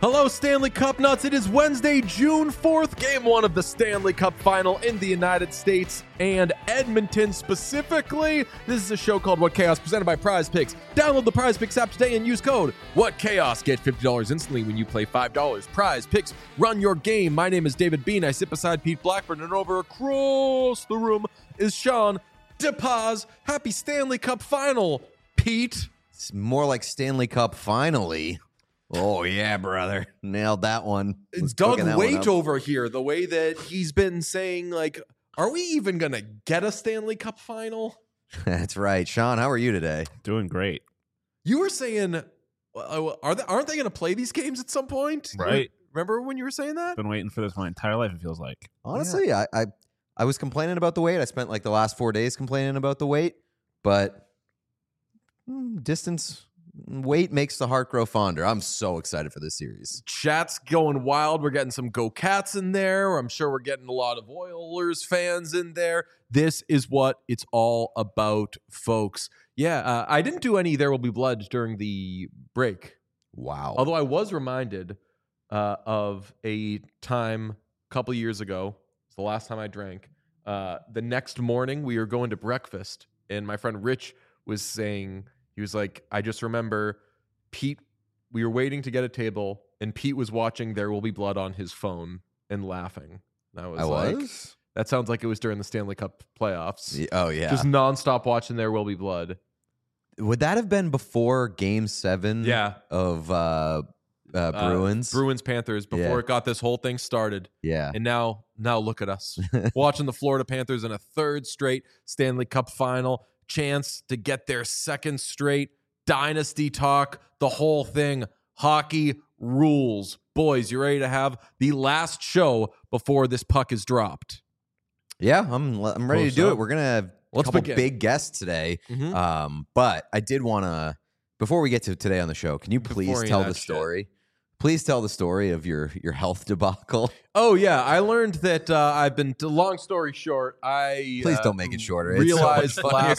Hello, Stanley Cup nuts. It is Wednesday, June 4th, game one of the Stanley Cup final in the United States and Edmonton specifically. This is a show called What Chaos, presented by Prize Picks. Download the Prize Picks app today and use code What Chaos. Get $50 instantly when you play $5. Prize Picks, run your game. My name is David Bean. I sit beside Pete Blackburn, and over across the room is Sean DePaz. Happy Stanley Cup final, Pete. It's more like Stanley Cup finally. Oh, yeah, brother. Nailed that one. It's Doug Waite over here. The way that he's been saying, like, are we even going to get a Stanley Cup final? That's right. Sean, how are you today? Doing great. You were saying, aren't they going to play these games at some point? Right. Remember when you were saying that? Been waiting for this my entire life, it feels like. Honestly, I was complaining about the wait. I spent like the last 4 days complaining about the wait, but wait makes the heart grow fonder. I'm so excited for this series. Chat's going wild. We're getting some Go Cats in there. I'm sure we're getting a lot of Oilers fans in there. This is what it's all about, folks. Yeah, I didn't do any There Will Be Blood during the break. Wow. Although I was reminded of a time a couple years ago. It's the last time I drank. The next morning, we were going to breakfast, and my friend Rich was saying, he was like, I just remember Pete, we were waiting to get a table, and Pete was watching There Will Be Blood on his phone and laughing. And I was? That sounds like it was during the Stanley Cup playoffs. Oh, yeah. Just nonstop watching There Will Be Blood. Would that have been before Game 7 Yeah. of Bruins? Bruins-Panthers, before it got this whole thing started. Yeah. And now look at us. Watching the Florida Panthers in a third straight Stanley Cup final. Chance to get their second straight dynasty talk, the whole thing. Hockey rules. Boys, you ready to have the last show before this puck is dropped? Yeah, I'm ready to do it. We're going to have a couple begin. big guests today. Mm-hmm. But I did want to, before we get to today on the show, can you please tell the story? Please tell the story of your health debacle. Oh, yeah. I learned that I've been, long story short, Please don't make it shorter. Realized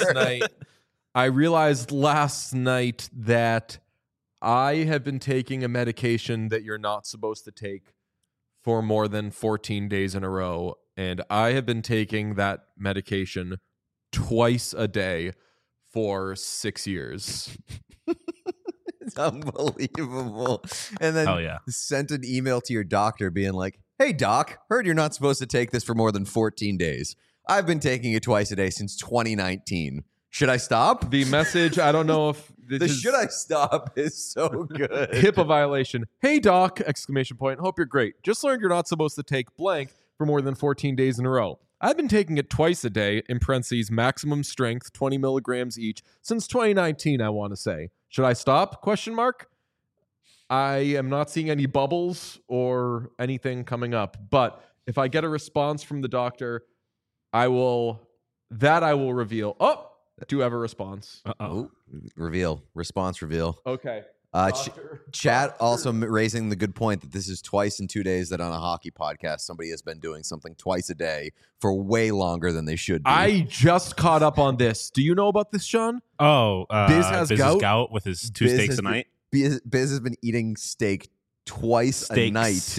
I realized last night that I have been taking a medication that you're not supposed to take for more than 14 days in a row. And I have been taking that medication twice a day for 6 years. It's unbelievable. And then sent an email to your doctor being like, hey, doc, heard you're not supposed to take this for more than 14 days. I've been taking it twice a day since 2019. Should I stop? The message, I don't know if this is should I stop is so good. HIPAA violation. Hey, doc, exclamation point. Hope you're great. Just learned you're not supposed to take blank for more than 14 days in a row. I've been taking it twice a day, in parentheses, maximum strength, 20 milligrams each, since 2019, I want to say. Should I stop? Question mark. I am not seeing any bubbles or anything coming up. But if I get a response from the doctor, I will reveal. Oh, do have a response. Uh-oh. Reveal. Response reveal. Okay. Chat also raising the good point that this is twice in 2 days that on a hockey podcast somebody has been doing something twice a day for way longer than they should be. I just caught up on this. Do you know about this, Sean? Oh, Biz has gout with his two steaks a night. Biz has been eating steaks twice a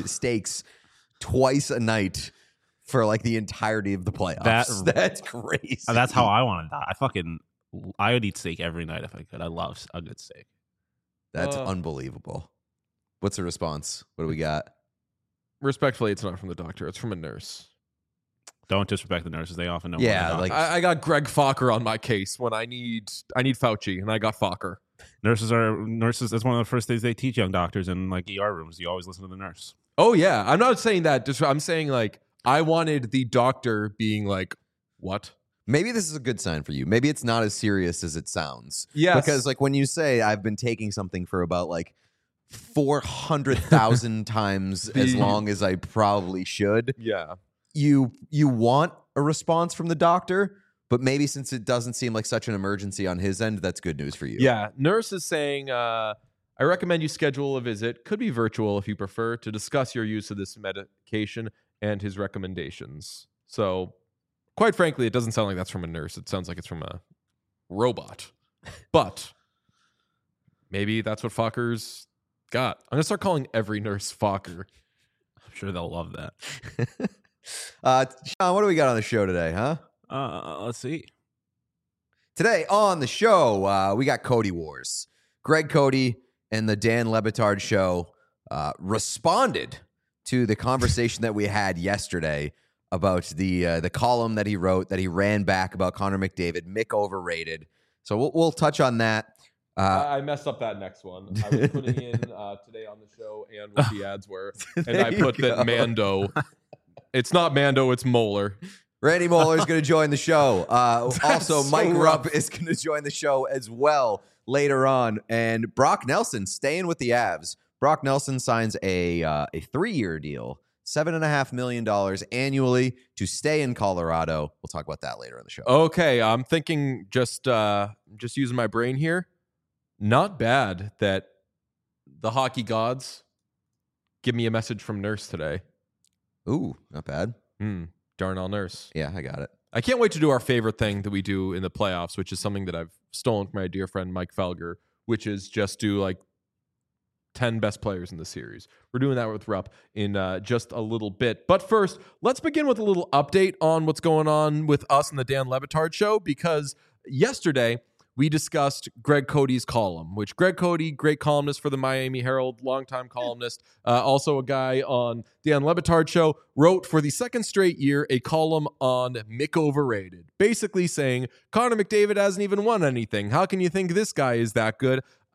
night for like the entirety of the playoffs. That's crazy. That's how I want to die. I would eat steak every night if I could. I love a good steak. That's unbelievable. What's the response? What do we got? Respectfully, it's not from the doctor. It's from a nurse. Don't disrespect the nurses. They often know. Yeah, like I got Greg Fokker on my case when I need Fauci, and I got Fokker. Nurses. That's one of the first things they teach young doctors in like ER rooms. You always listen to the nurse. Oh yeah, I'm not saying that. I'm saying like I wanted the doctor being like, what? Maybe this is a good sign for you. Maybe it's not as serious as it sounds. Yes. Because like when you say I've been taking something for about like 400,000 times as long as I probably should. Yeah. You want a response from the doctor, but maybe since it doesn't seem like such an emergency on his end, that's good news for you. Yeah. Nurse is saying, I recommend you schedule a visit. Could be virtual if you prefer, to discuss your use of this medication and his recommendations. So quite frankly, it doesn't sound like that's from a nurse. It sounds like it's from a robot. But maybe that's what Fokker's God, I'm gonna start calling every nurse Fokker. I'm sure they'll love that. Sean, what do we got on the show today, huh? Let's see. Today on the show, we got Cody Wars. Greg Cody and the Dan Le Batard show responded to the conversation that we had yesterday about the column that he wrote, that he ran back about Connor McDavid, Mick overrated. So we'll touch on that. I messed up that next one. I was putting in today on the show and what the ads were, and I put that Mando. It's not Mando, it's Moeller. Randy Moeller is going to join the show. Also, so Mike rough. Rupp is going to join the show as well later on. And Brock Nelson staying with the Avs. Brock Nelson signs a 3-year deal, $7.5 million annually to stay in Colorado. We'll talk about that later in the show. Okay, I'm thinking just using my brain here. Not bad that the hockey gods give me a message from Nurse today. Ooh, not bad. Darnell Nurse. Yeah, I got it. I can't wait to do our favorite thing that we do in the playoffs, which is something that I've stolen from my dear friend Mike Felger, which is just do like 10 best players in the series. We're doing that with Rupp in just a little bit. But first, let's begin with a little update on what's going on with us and the Dan Le Batard show, because yesterday we discussed Greg Cody's column, which Greg Cody, great columnist for the Miami Herald, longtime columnist, also a guy on Dan Le Batard show, wrote for the second straight year a column on Mick overrated, basically saying Connor McDavid hasn't even won anything. How can you think this guy is that good?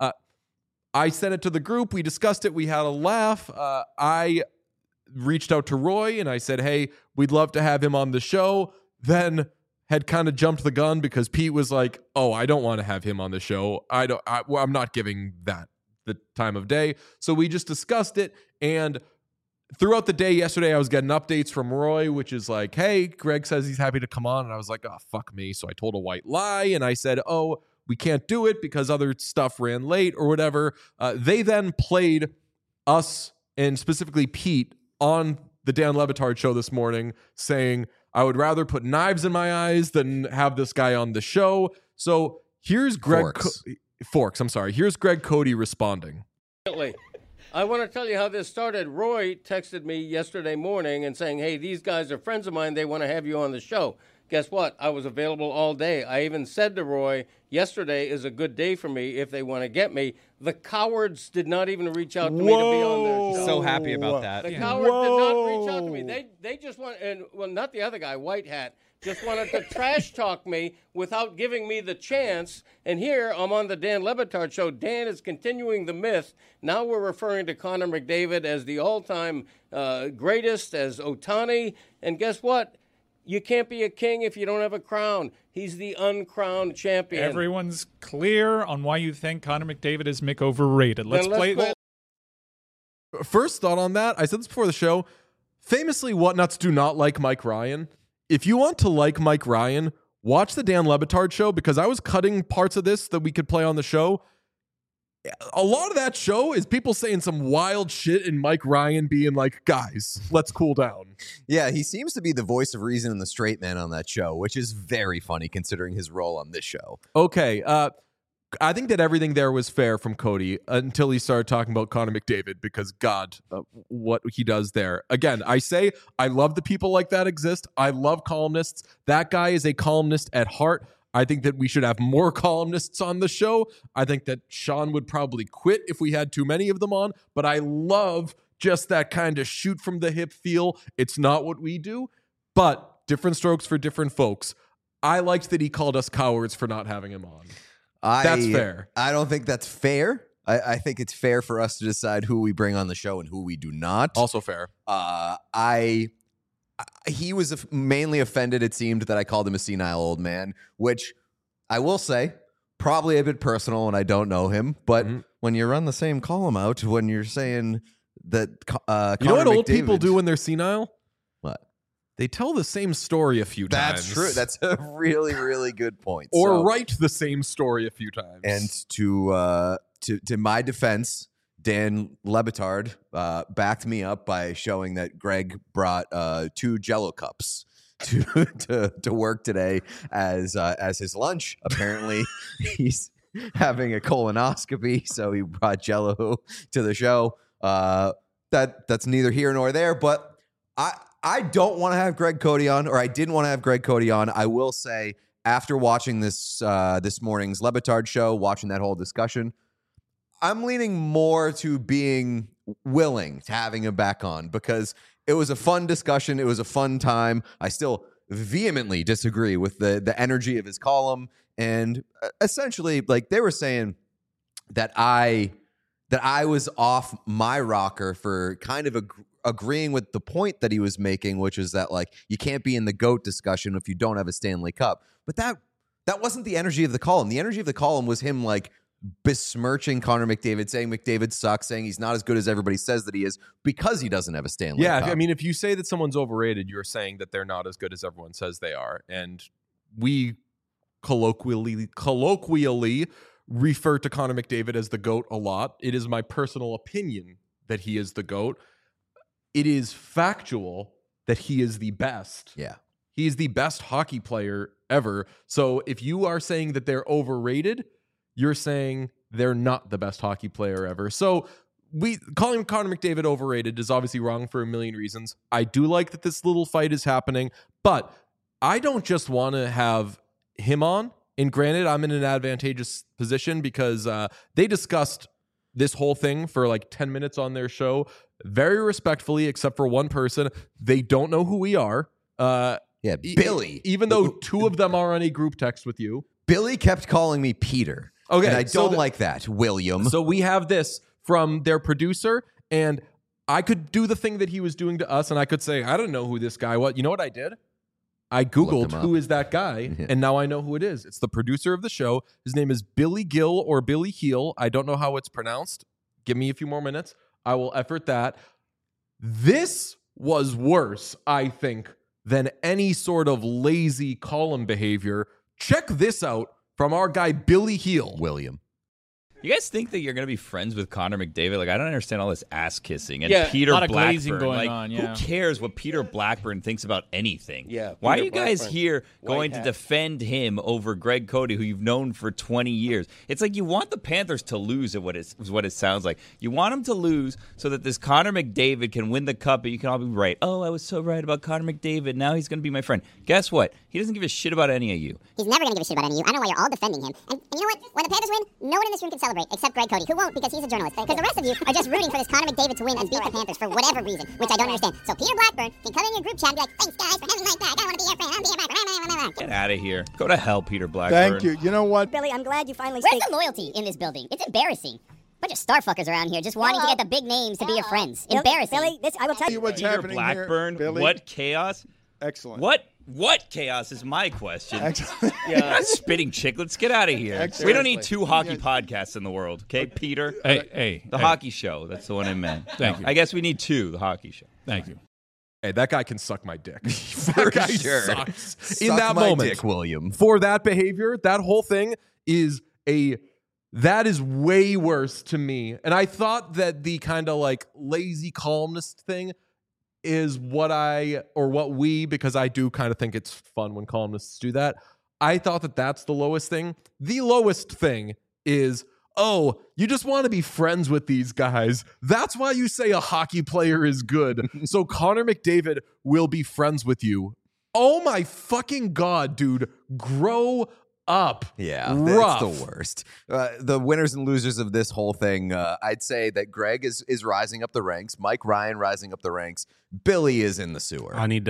I sent it to the group. We discussed it. We had a laugh. I reached out to Roy and I said, hey, we'd love to have him on the show. Then had kind of jumped the gun because Pete was like, oh, I don't want to have him on the show. I'm not giving that the time of day. So we just discussed it. And throughout the day yesterday, I was getting updates from Roy, which is like, hey, Greg says he's happy to come on. And I was like, oh, fuck me. So I told a white lie. And I said, oh, we can't do it because other stuff ran late or whatever. They then played us and specifically Pete on the Dan Le Batard show this morning saying, I would rather put knives in my eyes than have this guy on the show. So here's Greg Forks. I'm sorry. Here's Greg Cody responding. I want to tell you how this started. Roy texted me yesterday morning and saying, hey, these guys are friends of mine. They want to have you on the show. Guess what? I was available all day. I even said to Roy, yesterday is a good day for me if they want to get me. The cowards did not even reach out to me to be on their show. So happy about that. The cowards did not reach out to me. They just want, and well, not the other guy, White Hat, just wanted to trash talk me without giving me the chance. And here I'm on the Dan Le Batard show. Dan is continuing the myth. Now we're referring to Connor McDavid as the all-time greatest, as Ohtani. And guess what? You can't be a king if you don't have a crown. He's the uncrowned champion. Everyone's clear on why you think Connor McDavid is Mick overrated. Let's play. First thought on that, I said this before the show. Famously, Whatnuts do not like Mike Ryan. If you want to like Mike Ryan, watch the Dan Le Batard show, because I was cutting parts of this that we could play on the show. A lot of that show is people saying some wild shit and Mike Ryan being like, guys, let's cool down. Yeah, he seems to be the voice of reason and the straight man on that show, which is very funny considering his role on this show. Okay, I think that everything there was fair from Cody until he started talking about Connor McDavid, because God, what he does there. Again, I say I love the people like that exist. I love columnists. That guy is a columnist at heart. I think that we should have more columnists on the show. I think that Sean would probably quit if we had too many of them on, but I love just that kind of shoot from the hip feel. It's not what we do, but different strokes for different folks. I liked that he called us cowards for not having him on. That's fair. I don't think that's fair. I think it's fair for us to decide who we bring on the show and who we do not. Also fair. He was mainly offended, it seemed, that I called him a senile old man, which I will say, probably a bit personal, and I don't know him. But when you run the same column out, when you're saying that you know what old people do when they're senile? What? They tell the same story a few times. That's true. That's a really, really good point. Or write the same story a few times. And to my defense, Dan Le Batard backed me up by showing that Greg brought 2 Jell-O cups to work today as his lunch. Apparently, having a colonoscopy, so he brought Jello to the show. That's neither here nor there, but I don't want to have Greg Cody on, or I didn't want to have Greg Cody on. I will say, after watching this morning's Le Batard show, watching that whole discussion, I'm leaning more to being willing to having him back on, because it was a fun discussion. It was a fun time. I still vehemently disagree with the energy of his column. And essentially, like, they were saying that I was off my rocker for kind of agreeing with the point that he was making, which is that, like, you can't be in the GOAT discussion if you don't have a Stanley Cup. But that wasn't the energy of the column. The energy of the column was him, like, besmirching Connor McDavid, saying McDavid sucks, saying he's not as good as everybody says that he is because he doesn't have a Stanley Cup. Yeah, I mean, if you say that someone's overrated, you're saying that they're not as good as everyone says they are. And we colloquially refer to Connor McDavid as the GOAT a lot. It is my personal opinion that he is the GOAT. It is factual that he is the best. Yeah. He is the best hockey player ever. So if you are saying that they're overrated, you're saying they're not the best hockey player ever. So calling Connor McDavid overrated is obviously wrong for a million reasons. I do like that this little fight is happening, but I don't just want to have him on. And granted, I'm in an advantageous position because they discussed this whole thing for like 10 minutes on their show, very respectfully, except for one person. They don't know who we are. Billy. Even though two of them are on a group text with you. Billy kept calling me Peter. Okay, and I don't like that, William. So we have this from their producer, and I could do the thing that he was doing to us, and I could say, I don't know who this guy was. You know what I did? I Googled who is that guy, and now I know who it is. It's the producer of the show. His name is Billy Gill or Billy Heel. I don't know how it's pronounced. Give me a few more minutes. I will effort that. This was worse, I think, than any sort of lazy column behavior. Check this out from our guy Billy Heel. William. You guys think that you're going to be friends with Connor McDavid? Like, I don't understand all this ass kissing. And a Peter lot of Blackburn. glazing going like, on, yeah. Who cares what Peter Blackburn thinks about anything? Yeah. Why Peter are you guys Blackburn. here going White to hat. defend him over Greg Cody, who you've known for 20 years? It's like you want the Panthers to lose, is what it sounds like. You want them to lose so that this Connor McDavid can win the cup, and you can all be right. Oh, I was so right about Connor McDavid. Now he's going to be my friend. Guess what? He doesn't give a shit about any of you. He's never going to give a shit about any of you. I don't know why you're all defending him. And you know what? When the Panthers win, no one in this room can celebrate except Greg Cody, who won't because he's a journalist. Because the rest of you are just rooting for this Connor McDavid to win and beat the Panthers for whatever reason, which I don't understand. So Peter Blackburn can come in your group chat and be like, thanks, guys, for having me like that. I want to be your friend. I want to be your friend. Get out of here. Go to hell, Peter Blackburn. Thank you. You know what? Billy, I'm glad you finally Where's the loyalty in this building? It's embarrassing. Bunch of starfuckers around here just wanting to get the big names to be your friends. Embarrassing. Billy, I will tell you what's Peter happening Blackburn, here, Billy. what chaos? Excellent. What chaos is my question? Excellent. You're not spitting chicklets. Get out of here. Excellent. We don't need two hockey podcasts in the world, okay, Peter? Hey, The hockey show. That's the one I meant. Thank you. I guess we need two, the hockey show. Thank you. Hey, that guy can suck my dick. For That guy sure. sucks. Suck In that my moment, dick, William. for that behavior, that whole thing is way worse to me. And I thought that the kind of like lazy columnist thing is what we, because I do kind of think it's fun when columnists do that. I thought that that's the lowest thing. The lowest thing is, oh, you just want to be friends with these guys. That's why you say a hockey player is good. So Connor McDavid will be friends with you. Oh my fucking God, dude. Grow up. Yeah, Rough. that's the worst. The winners and losers of this whole thing, I'd say that Greg is rising up the ranks. Mike Ryan rising up the ranks. Billy is in the sewer. I need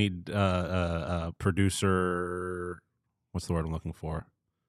producer. What's the word I'm looking for?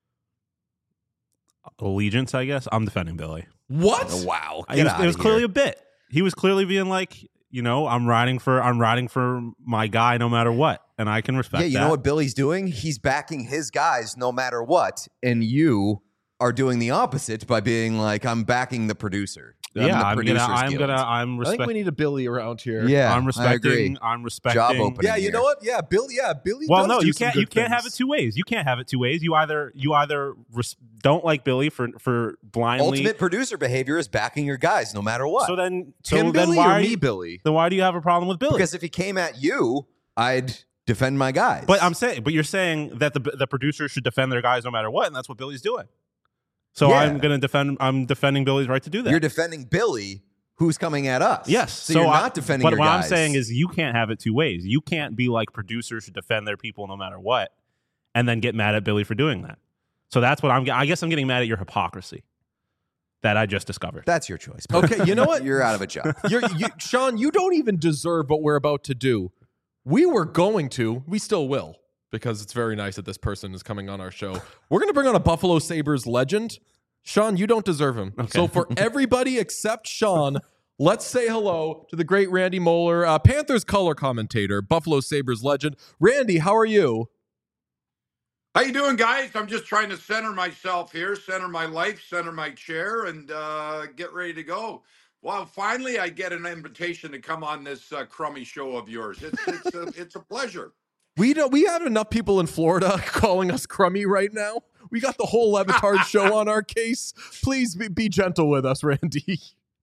Allegiance, I guess. I'm defending Billy. What? Oh, wow. It was clearly a bit. He was clearly being like, I'm riding for my guy no matter what, and I can respect that. Yeah, you know what Billy's doing? He's backing his guys no matter what, and you are doing the opposite by being like, I'm backing the producer. I'm respecting. I think we need a Billy around here. Yeah, I'm respecting. Job opening. Yeah, you here. know what? Yeah, Billy. Yeah, Billy. Well, does no, do you some can't. good You can't have it things. two ways. You can't have it two ways. You either don't like Billy for blindly. Ultimate producer behavior is backing your guys no matter what. So then, Tim Billy why or are me, you, Billy? Then why do you have a problem with Billy? because if he came at you, I'd defend my guys. But you're saying that the producer should defend their guys no matter what, and that's what Billy's doing. So I'm going to defend. I'm defending Billy's right to do that. You're defending Billy, who's coming at us. Yes. So you're not defending your guys. But what I'm saying is you can't have it two ways. You can't be like producers who defend their people no matter what and then get mad at Billy for doing that. So that's what I guess I'm getting mad at your hypocrisy that I just discovered. That's your choice. Okay, you know what? You're out of a job. Sean, you don't even deserve what we're about to do. We still will, because it's very nice that this person is coming on our show. We're going to bring on a Buffalo Sabres legend. Sean, you don't deserve him. Okay. So for everybody except Sean, let's say hello to the great Randy Moeller, Panthers color commentator, Buffalo Sabres legend. Randy, how are you? How you doing, guys? I'm just trying to center myself here, center my life, center my chair, and get ready to go. Well, finally, I get an invitation to come on this crummy show of yours. It's a pleasure. We have enough people in Florida calling us crummy right now. We got the whole Levitard show on our case. Please be gentle with us, Randy.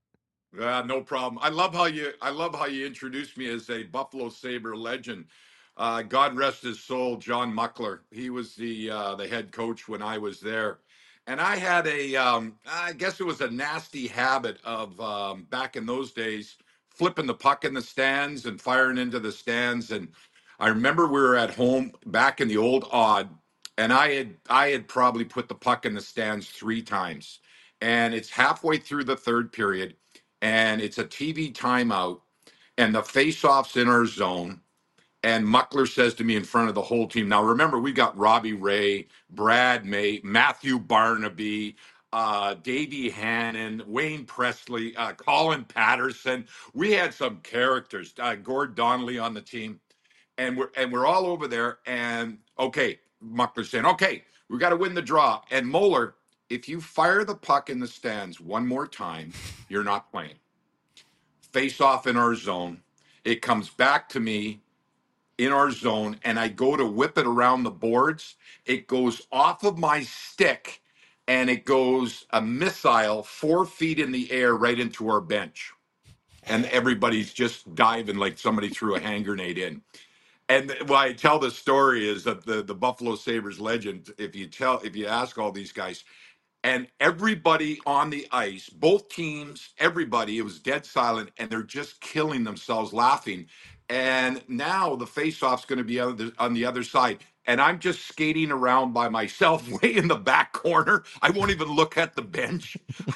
No problem. I love how you introduced me as a Buffalo Sabre legend. God rest his soul, John Muckler. He was the head coach when I was there. And I had I guess it was a nasty habit of, back in those days, flipping the puck in the stands and firing into the stands. And I remember we were at home back in the old Odd, and I had probably put the puck in the stands 3 times. And it's halfway through the third period, and it's a TV timeout, and the face-off's in our zone. And Muckler says to me in front of the whole team, now remember, we got Robbie Ray, Brad May, Matthew Barnaby, Davey Hannon, Wayne Presley, Colin Patterson. We had some characters, Gord Donnelly on the team. And we're all over there. And okay, Muckler's saying, okay, we got to win the draw. And Moeller, if you fire the puck in the stands one more time, you're not playing. Face off in our zone. It comes back to me in our zone, and I go to whip it around the boards. It goes off of my stick, and it goes a missile 4 feet in the air right into our bench. And everybody's just diving like somebody threw a hand grenade in. And why I tell this story is that the Buffalo Sabres legend, if you ask all these guys, and everybody on the ice, both teams, everybody, it was dead silent, and they're just killing themselves laughing. And now the face-off's going to be on the other side. And I'm just skating around by myself way in the back corner. I won't even look at the bench.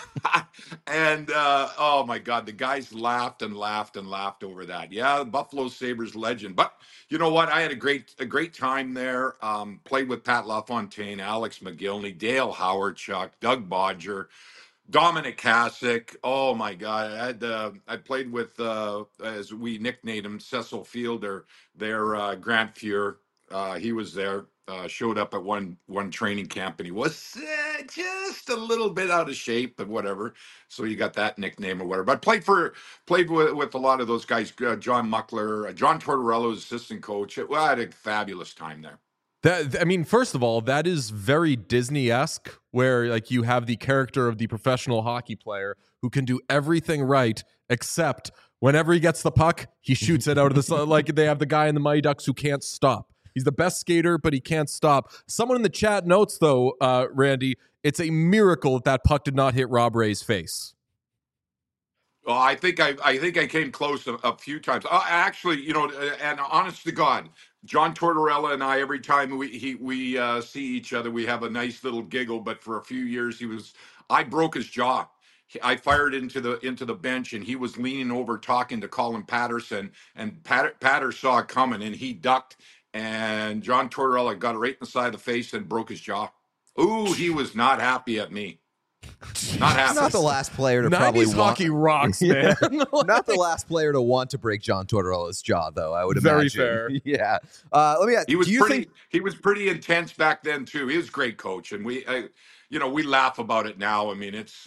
And, oh, my God, the guys laughed and laughed and laughed over that. Yeah, Buffalo Sabres legend. But you know what? I had a great time there. Played with Pat LaFontaine, Alex McGillney, Dale Howard-Chuck, Doug Bodger, Dominic Hasek. Oh my God! I played with, as we nicknamed him, Cecil Fielder, their Grant Fuhr. He was there. Showed up at one training camp, and he was just a little bit out of shape, but whatever. So you got that nickname or whatever. But played with a lot of those guys. John Muckler, John Tortorella, assistant coach. Well, I had a fabulous time there. First of all, that is very Disney-esque, where like you have the character of the professional hockey player who can do everything right, except whenever he gets the puck, he shoots it out of the sun. Like they have the guy in the Mighty Ducks who can't stop. He's the best skater, but he can't stop. Someone in the chat notes, though, Randy, it's a miracle that puck did not hit Rob Ray's face. Well, I think I came close a few times. Actually, and honest to God, John Tortorella and I, every time we see each other, we have a nice little giggle. But for a few years, I broke his jaw. I fired into the bench, and he was leaning over talking to Colin Patterson, and Patter saw it coming, and he ducked, and John Tortorella got it right in the side of the face and broke his jaw. Ooh, he was not happy at me. Not happy. Not the last player to probably hockey rocks, man. Not the last player to want to break John Tortorella's jaw, though. I would imagine. Very fair. Yeah. Let me ask. He was pretty intense back then too. He was a great coach, and we laugh about it now. I mean, it's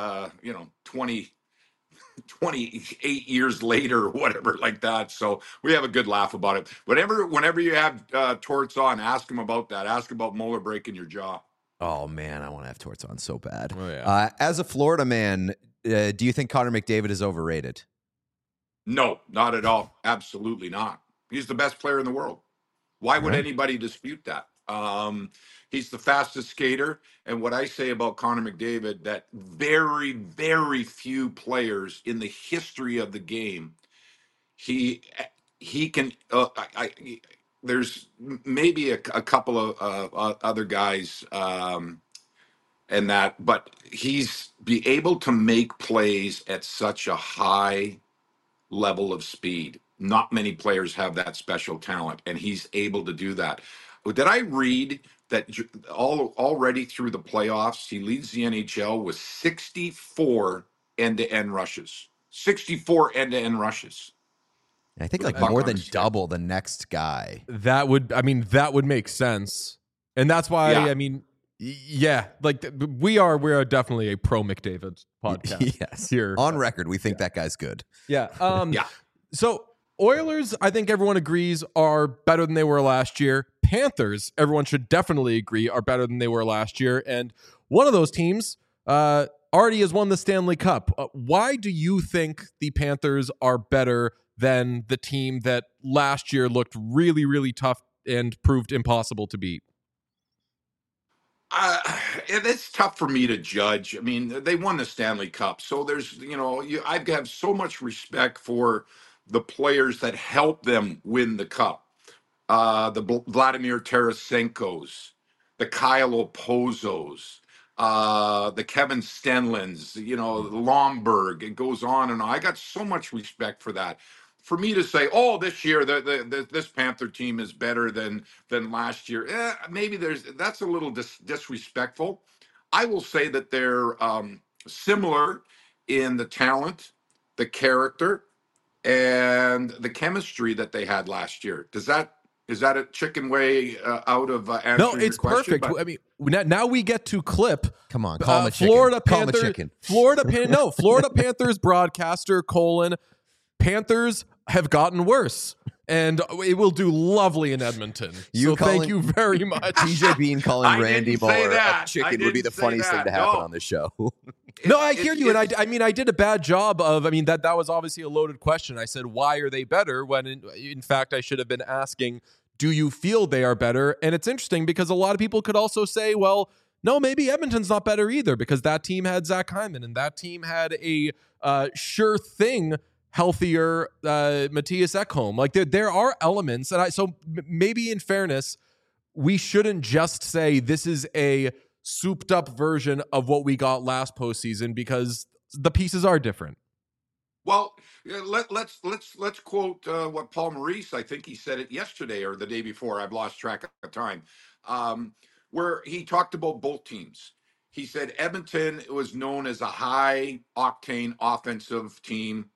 28 years later or whatever like that. So we have a good laugh about it. Whenever you have Torts on, ask him about that. Ask about Moeller breaking your jaw. Oh, man, I want to have Torts on so bad. Oh, yeah. As a Florida man, do you think Connor McDavid is overrated? No, not at all. Absolutely not. He's the best player in the world. Why would anybody dispute that? He's the fastest skater. And what I say about Connor McDavid, that very, very few players in the history of the game, he can. There's maybe a couple of other guys, and that, but he's be able to make plays at such a high level of speed. Not many players have that special talent, and he's able to do that. Did I read that already through the playoffs, he leads the NHL with 64 end-to-end rushes. 64 end-to-end rushes. I think like more than double the next guy. That would make sense. And that's why, I mean, yeah, like we are definitely a pro McDavid podcast. Yes, here on record, we think that guy's good. Yeah, So Oilers, I think everyone agrees, are better than they were last year. Panthers, everyone should definitely agree, are better than they were last year. And one of those teams already has won the Stanley Cup. Why do you think the Panthers are better than the team that last year looked really, really tough and proved impossible to beat? It's tough for me to judge. I mean, they won the Stanley Cup, so there's, I have so much respect for the players that helped them win the cup. The Vladimir Tarasenko's, the Kyle Opozos, the Kevin Stenlins, Lomberg. It goes on and on. I got so much respect for that. For me to say, oh, this year this Panther team is better than last year, maybe that's a little disrespectful. I will say that they're similar in the talent, the character, and the chemistry that they had last year. Is that a chicken way out of answering No, it's your question? perfect. I mean, now we get to clip. Come on, call him a chicken. Florida Call him a Panthers. chicken. Florida Panthers broadcaster : Panthers have gotten worse, and it will do lovely in Edmonton. Thank you very much. TJ Bean calling Randy Muller a chicken would be the funniest thing to happen on the show. No, I hear you, and I did a bad job of. I mean, that was obviously a loaded question. I said, "Why are they better?" When in fact, I should have been asking, "Do you feel they are better?" And it's interesting because a lot of people could also say, "Well, no, maybe Edmonton's not better either," because that team had Zach Hyman and that team had a sure thing healthier Matthias Ekholm. Like there are elements, and so maybe in fairness, we shouldn't just say this is a souped up version of what we got last postseason because the pieces are different. Well, let's quote what Paul Maurice, I think he said it yesterday or the day before. I've lost track of time. Where he talked about both teams. He said Edmonton was known as a high octane offensive team.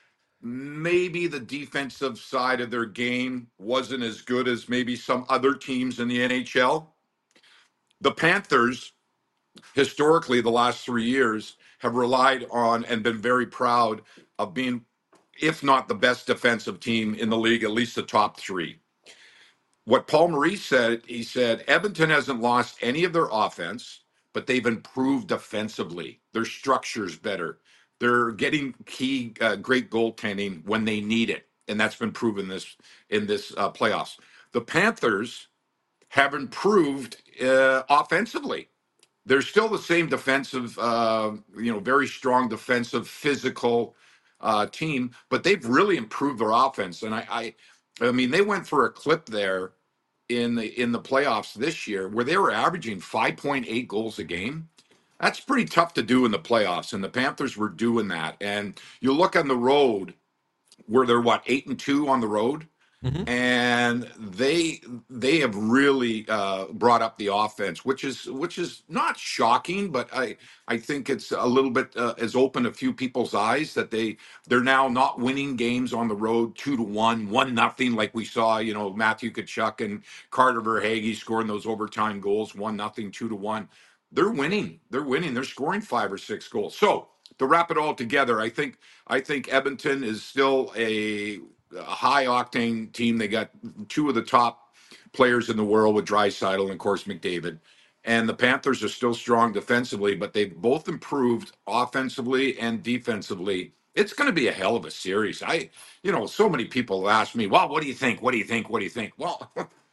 Maybe the defensive side of their game wasn't as good as maybe some other teams in the NHL. The Panthers, historically, the last 3 years, have relied on and been very proud of being, if not the best defensive team in the league, at least the top three. What Paul Maurice said, he said, Edmonton hasn't lost any of their offense, but they've improved defensively. Their structure's better. They're getting great goaltending when they need it, and that's been proven in this playoffs. The Panthers have improved offensively. They're still the same defensive, very strong defensive, physical team, but they've really improved their offense. And I mean, they went through a clip there in the playoffs this year where they were averaging 5.8 goals a game. That's pretty tough to do in the playoffs, and the Panthers were doing that. And you look on the road, where they're 8-2 on the road, and they have really brought up the offense, which is not shocking, but I think it's a little bit has opened a few people's eyes that they're now not winning games on the road 2-1, 1-0, like we saw, Matthew Tkachuk and Carter Verhaeghe scoring those overtime goals, 1-0, 2-1. They're winning. They're scoring 5 or 6 goals. So to wrap it all together, I think Edmonton is still a high octane team. They got 2 of the top players in the world with Draisaitl and of course McDavid. And the Panthers are still strong defensively, but they've both improved offensively and defensively. It's going to be a hell of a series. So many people ask me, well, what do you think? What do you think? What do you think? Well,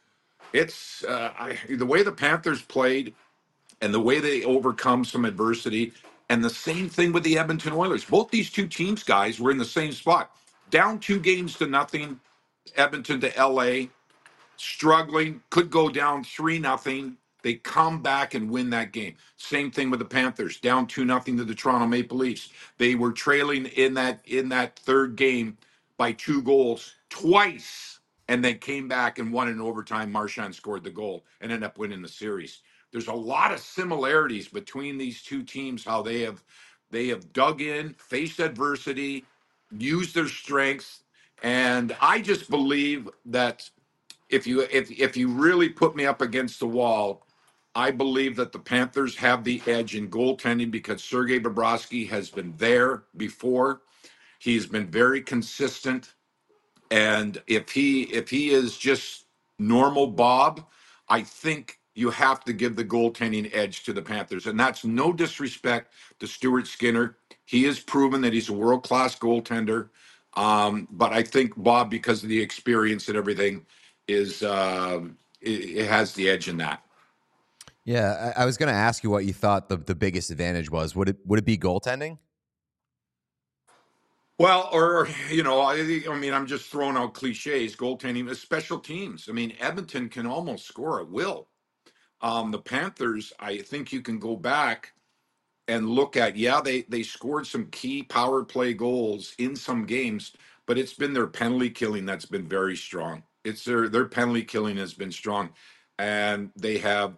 It's the way the Panthers played and the way they overcome some adversity. And the same thing with the Edmonton Oilers. Both these two teams, guys, were in the same spot. Down 2-0, Edmonton to LA, struggling, could go down 3-0. They come back and win that game. Same thing with the Panthers, down 2-0 to the Toronto Maple Leafs. They were trailing in that third game by 2 goals twice, and they came back and won in overtime. Marchand scored the goal and ended up winning the series. There's a lot of similarities between these two teams, how they have dug in, faced adversity, used their strengths, and I just believe that if you really put me up against the wall, I believe that the Panthers have the edge in goaltending because Sergei Bobrovsky has been there before. He's been very consistent, and if he is just normal Bob, I think you have to give the goaltending edge to the Panthers, and that's no disrespect to Stuart Skinner. He has proven that he's a world-class goaltender, but I think Bob, because of the experience and everything, it has the edge in that. Yeah, I was going to ask you what you thought the biggest advantage was. Would it be goaltending? Well, or I mean, I'm just throwing out cliches. Goaltending, special teams. I mean, Edmonton can almost score at will. The Panthers, I think you can go back and look at, they scored some key power play goals in some games, but it's been their penalty killing that's been very strong. It's their penalty killing has been strong, and they have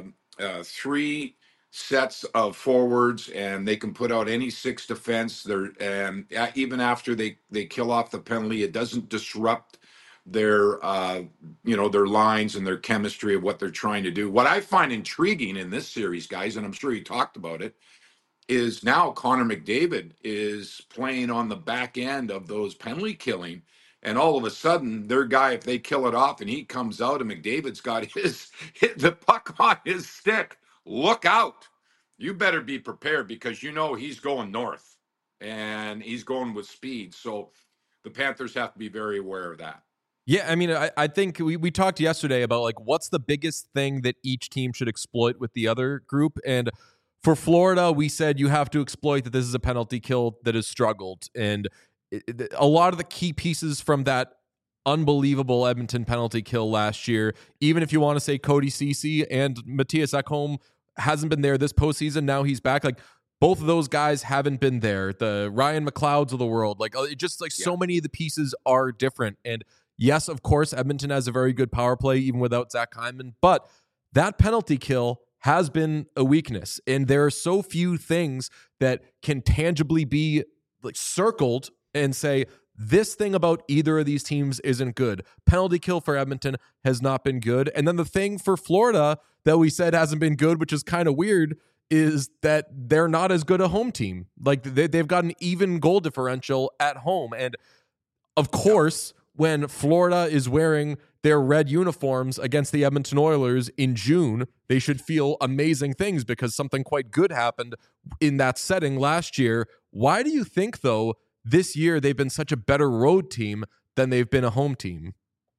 3 sets of forwards, and they can put out any 6 defense. And even after they kill off the penalty, it doesn't disrupt their their lines and their chemistry of what they're trying to do. What I find intriguing in this series, guys, and I'm sure you talked about it, is now Connor McDavid is playing on the back end of those penalty killing. And all of a sudden, their guy, if they kill it off and he comes out and McDavid's got hit the puck on his stick, look out. You better be prepared because he's going north and he's going with speed. So the Panthers have to be very aware of that. Yeah, I mean, I think we talked yesterday about like what's the biggest thing that each team should exploit with the other group. And for Florida, we said you have to exploit that this is a penalty kill that has struggled. And a lot of the key pieces from that unbelievable Edmonton penalty kill last year, even if you want to say Cody Ceci and Matthias Ekholm hasn't been there this postseason, now he's back. Like both of those guys haven't been there. The Ryan McLeods of the world, like just like so many of the pieces are different. And yes, of course, Edmonton has a very good power play even without Zach Hyman, but that penalty kill has been a weakness. And there are so few things that can tangibly be like circled and say, this thing about either of these teams isn't good. Penalty kill for Edmonton has not been good. And then the thing for Florida that we said hasn't been good, which is kind of weird, is that they're not as good a home team. Like they've got an even goal differential at home. And of course, when Florida is wearing their red uniforms against the Edmonton Oilers in June, they should feel amazing things because something quite good happened in that setting last year. Why do you think, though, this year they've been such a better road team than they've been a home team?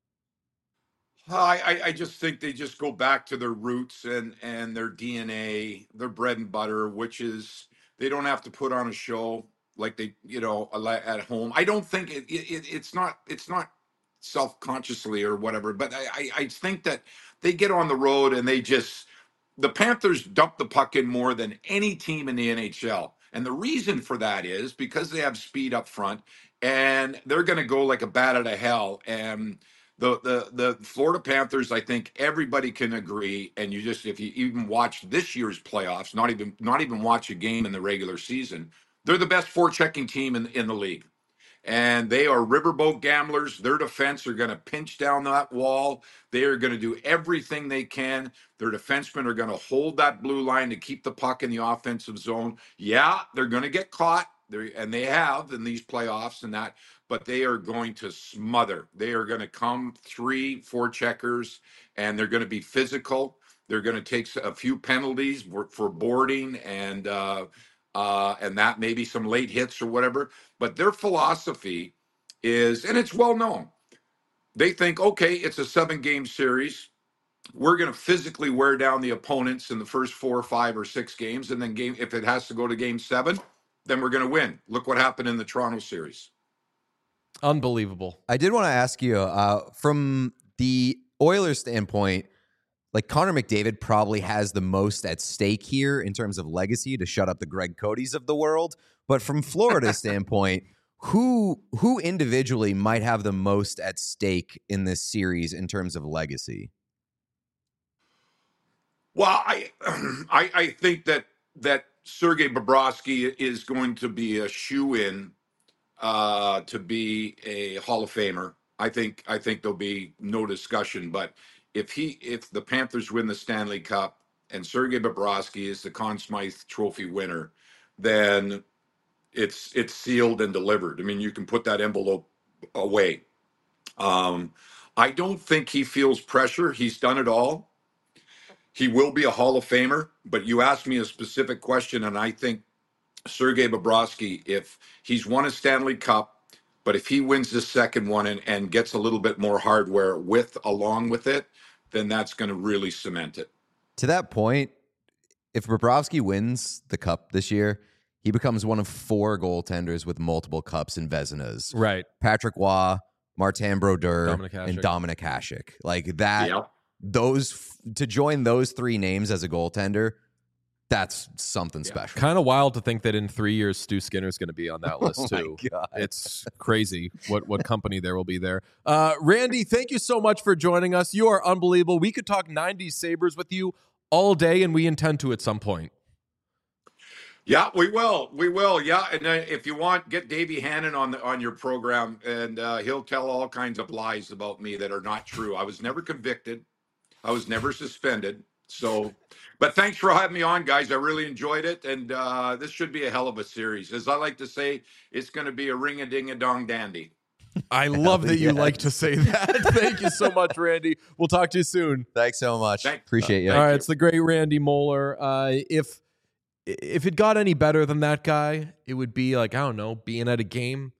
I just think they just go back to their roots and their DNA, their bread and butter, which is they don't have to put on a show like they, at home. I don't think it's not self-consciously or whatever, but I think that they get on the road and the Panthers dump the puck in more than any team in the NHL. And the reason for that is because they have speed up front and they're going to go like a bat out of hell. And the Florida Panthers, I think everybody can agree. And if you even watch this year's playoffs, not even watch a game in the regular season, they're the best forechecking team in the league. And they are riverboat gamblers. Their defense are going to pinch down that wall. They are going to do everything they can. Their defensemen are going to hold that blue line to keep the puck in the offensive zone. Yeah, they're going to get caught, and they have in these playoffs and that, but they are going to smother. They are going to come 3-4 checkers, and they're going to be physical. They're going to take a few penalties for boarding and that maybe some late hits or whatever. But their philosophy is, and it's well known, they think, okay, it's a 7-game series. we're going to physically wear down the opponents in the first 4 or 5 or 6 games, and then if it has to go to game 7, then we're going to win. Look what happened in the Toronto series. Unbelievable. I did want to ask you, from the Oilers standpoint, like Connor McDavid probably has the most at stake here in terms of legacy to shut up the Greg Codys of the world. But from Florida's standpoint, who individually might have the most at stake in this series in terms of legacy? Well, I think that Sergei Bobrovsky is going to be a shoo-in to be a Hall of Famer. I think there'll be no discussion. But if the Panthers win the Stanley Cup and Sergei Bobrovsky is the Conn Smythe Trophy winner, then it's sealed and delivered. I mean, you can put that envelope away. I don't think he feels pressure. He's done it all. He will be a Hall of Famer, but you asked me a specific question, and I think Sergei Bobrovsky, if he's won a Stanley Cup, but if he wins the second one and gets a little bit more hardware along with it, then that's going to really cement it. To that point, if Bobrovsky wins the Cup this year, he becomes one of 4 goaltenders with multiple Cups and Vezinas. Right. Patrick Waugh, Martin Brodeur, and Dominik Hasek. Like that. Yep. To join those 3 names as a goaltender, that's something special. Kind of wild to think that in 3 years, Stu Skinner's going to be on that list too. It's crazy what company there will be there. Randy, thank you so much for joining us. You are unbelievable. We could talk 90s Sabres with you all day, and we intend to at some point. Yeah, we will. Yeah, and if you want, get Davey Hannon on your program, and he'll tell all kinds of lies about me that are not true. I was never convicted. I was never suspended. So, but thanks for having me on, guys. I really enjoyed it, and this should be a hell of a series. As I like to say, it's going to be a ring-a-ding-a-dong dandy. I love that you like to say that. Thank you so much, Randy. We'll talk to you soon. Thanks so much. Appreciate you. All right, it's the great Randy Moeller. If it got any better than that guy, it would be like, I don't know, being at a game,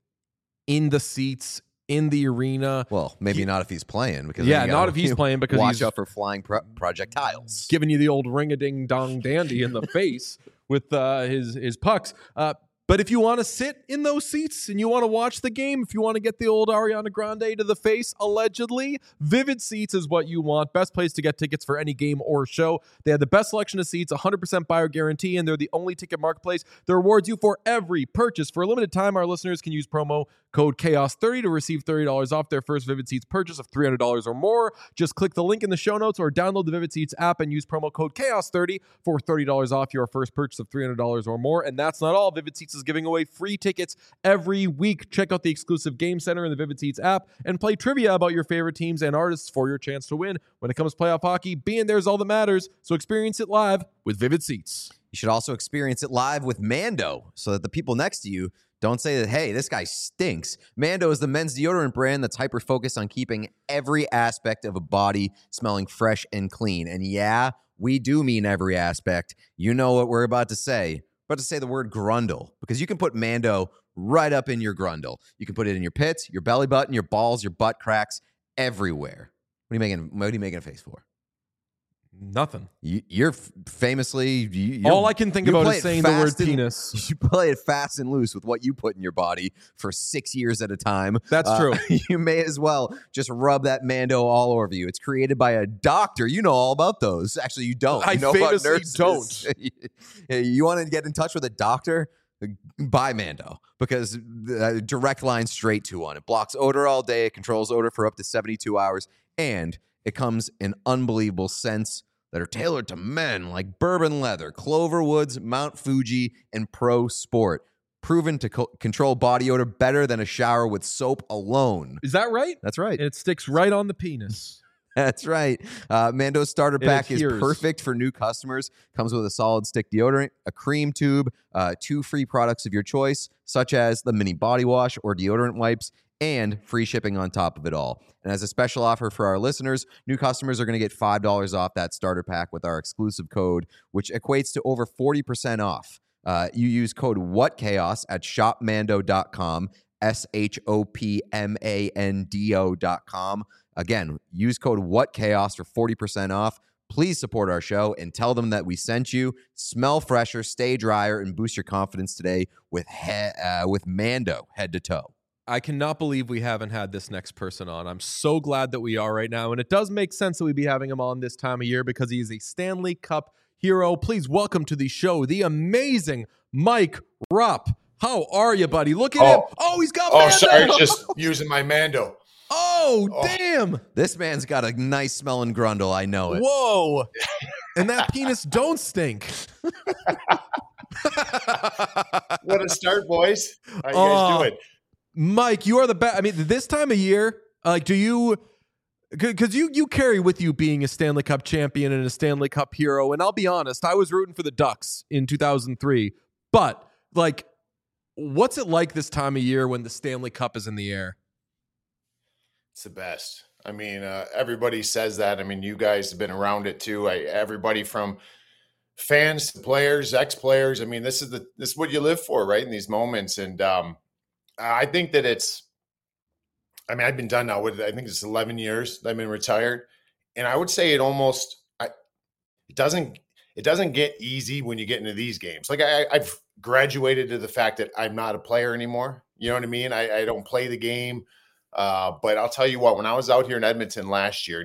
in the seats, in the arena. Well, maybe not if he's playing. Because not if he's playing, because watch out for flying projectiles. Giving you the old ring-a-ding-dong dandy in the face with his pucks. But if you want to sit in those seats and you want to watch the game, if you want to get the old Ariana Grande to the face, allegedly, Vivid Seats is what you want. Best place to get tickets for any game or show. They have the best selection of seats, 100% buyer guarantee, and they're the only ticket marketplace that rewards you for every purchase. For a limited time, our listeners can use promo code CHAOS30 to receive $30 off their first Vivid Seats purchase of $300 or more. Just click the link in the show notes or download the Vivid Seats app and use promo code CHAOS30 for $30 off your first purchase of $300 or more. And that's not all. Vivid Seats is giving away free tickets every week. Check out the exclusive Game Center in the Vivid Seats app and play trivia about your favorite teams and artists for your chance to win. When it comes to playoff hockey, being there is all that matters. So experience it live with Vivid Seats. You should also experience it live with Mando so that the people next to you don't say that, hey, this guy stinks. Mando is the men's deodorant brand that's hyper-focused on keeping every aspect of a body smelling fresh and clean. And yeah, we do mean every aspect. You know what we're about to say. We're about to say the word grundle, because you can put Mando right up in your grundle. You can put it in your pits, your belly button, your balls, your butt cracks, everywhere. What are you making a face for? Nothing. You're famously... all I can think about is saying the word penis. You play it fast and loose with what you put in your body for 6 years at a time. That's true. You may as well just rub that Mando all over you. It's created by a doctor. You know all about those. Actually, you don't. I famously don't. You want to get in touch with a doctor? Buy Mando, because direct line straight to one. It blocks odor all day. It controls odor for up to 72 hours. And it comes in unbelievable scents that are tailored to men, like bourbon leather, Clover Woods, Mount Fuji, and Pro Sport. Proven to control body odor better than a shower with soap alone. Is that right? That's right. It sticks right on the penis. That's right. Mando's starter pack is perfect for new customers. Comes with a solid stick deodorant, a cream tube, 2 free products of your choice, such as the mini body wash or deodorant wipes, and free shipping on top of it all. And as a special offer for our listeners, new customers are going to get $5 off that starter pack with our exclusive code, which equates to over 40% off. You use code WhatChaos at shopmando.com, SHOPMANDO.com. Again, use code WhatChaos for 40% off. Please support our show and tell them that we sent you. Smell fresher, stay drier, and boost your confidence today with Mando head to toe. I cannot believe we haven't had this next person on. I'm so glad that we are right now, and it does make sense that we'd be having him on this time of year because he is a Stanley Cup hero. Please welcome to the show the amazing Mike Rupp. How are you, buddy? Look at him. Oh, he's got Mando. Sorry, just using my Mando. Oh, damn. This man's got a nice smelling grundle. I know it. Whoa. And that penis don't stink. What a start, boys. How you guys doing? Mike, you are the best. I mean, this time of year, like, do you... Because you carry with you being a Stanley Cup champion and a Stanley Cup hero. And I'll be honest, I was rooting for the Ducks in 2003. But, like, what's it like this time of year when the Stanley Cup is in the air? It's the best. I mean, everybody says that. I mean, you guys have been around it too. Everybody from fans to players, ex-players. I mean, this is what you live for, right? In these moments. And I think that I've been done now with, I think it's 11 years that I've been retired. And I would say it doesn't get easy when you get into these games. Like I've graduated to the fact that I'm not a player anymore. You know what I mean? I don't play the game. But I'll tell you what, when I was out here in Edmonton last year and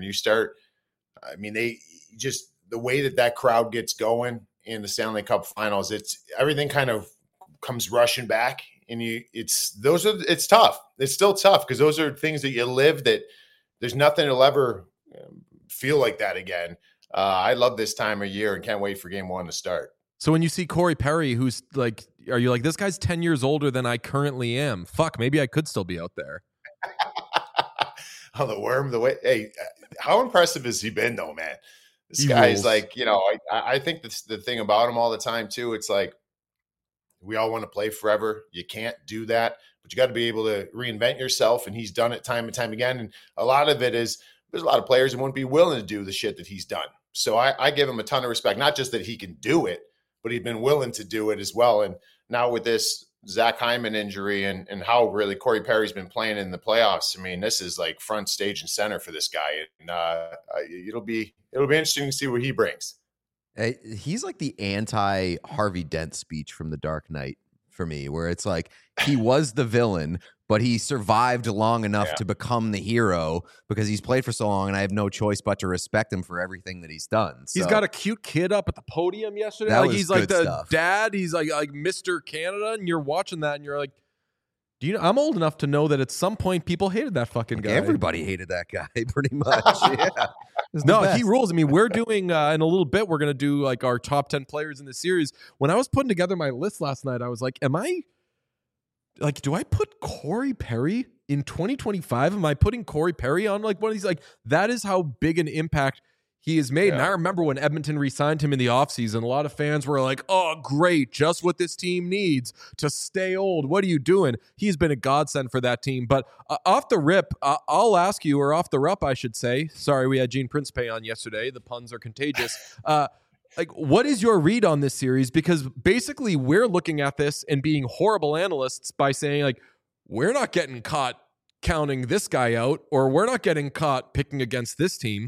the way that crowd gets going in the Stanley Cup finals, everything kind of comes rushing back and it's tough. It's still tough because those are things that you live that there's nothing that'll ever feel like that again. I love this time of year and can't wait for game one to start. So when you see Corey Perry, who's like, are you like, this guy's 10 years older than I currently am? Fuck, maybe I could still be out there. Oh, the worm, hey, how impressive has he been though, man? This He guy's rules. like, I think that's the thing about him all the time too. It's like, we all want to play forever. You can't do that, but you got to be able to reinvent yourself. And he's done it time and time again. And a lot of it is, there's a lot of players that wouldn't be willing to do the shit that he's done. So I give him a ton of respect, not just that he can do it, but he's been willing to do it as well. And now with this Zach Hyman injury and how really Corey Perry's been playing in the playoffs. I mean, this is like front stage and center for this guy. And it'll be interesting to see what he brings. He's like the anti Harvey Dent speech from The Dark Knight for me, where it's like he was the villain, but he survived long enough to become the hero because he's played for so long, and I have no choice but to respect him for everything that he's done. So, he's got a cute kid up at the podium yesterday. That Like was he's like good the stuff. dad. He's like Mr. Canada, and you're watching that, and you're like, do you know? I'm old enough to know that at some point people hated that fucking guy. Everybody hated that guy, pretty much. Yeah. No, he rules. I mean, we're doing in a little bit. We're gonna do like our top 10 players in the series. When I was putting together my list last night, I was like, do I put Corey Perry in 2025? Am I putting Corey Perry on like one of these? Like, that is how big an impact he has made. Yeah. And I remember when Edmonton re-signed him in the offseason, a lot of fans were like, oh, great, just what this team needs to stay old. What are you doing? He's been a godsend for that team. But off the rip, I'll ask you, or off the rup, I should say. Sorry, we had Gene Principe on yesterday. The puns are contagious. Like, what is your read on this series? Because basically we're looking at this and being horrible analysts by saying, like, we're not getting caught counting this guy out, or we're not getting caught picking against this team.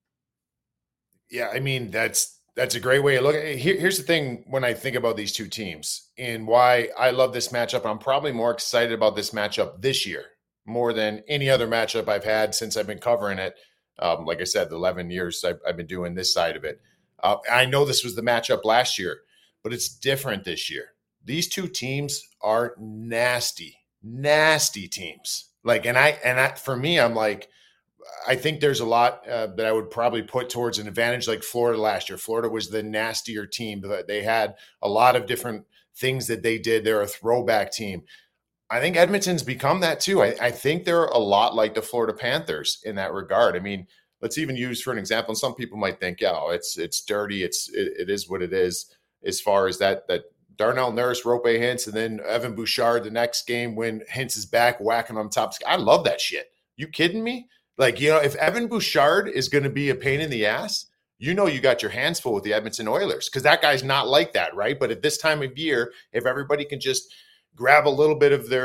Yeah, I mean, that's a great way to look at it. Here's the thing when I think about these two teams and why I love this matchup. I'm probably more excited about this matchup this year more than any other matchup I've had since I've been covering it. Like I said, the 11 years I've been doing this side of it. I know this was the matchup last year, but it's different this year. These two teams are nasty teams. Like, and for me, I'm like, I think there's a lot that I would probably put towards an advantage like Florida last year. Florida was the nastier team. They had a lot of different things that they did. They're a throwback team. I think Edmonton's become that too. I think they're a lot like the Florida Panthers in that regard. I mean, let's even use for an example, and some people might think, it's dirty. It is what it is as far as that Darnell Nurse, Rope Hintz, and then Evan Bouchard the next game when Hintz is back whacking on top. I love that shit. You kidding me? Like, if Evan Bouchard is going to be a pain in the ass, you got your hands full with the Edmonton Oilers because that guy's not like that, right? But at this time of year, if everybody can just grab a little bit of their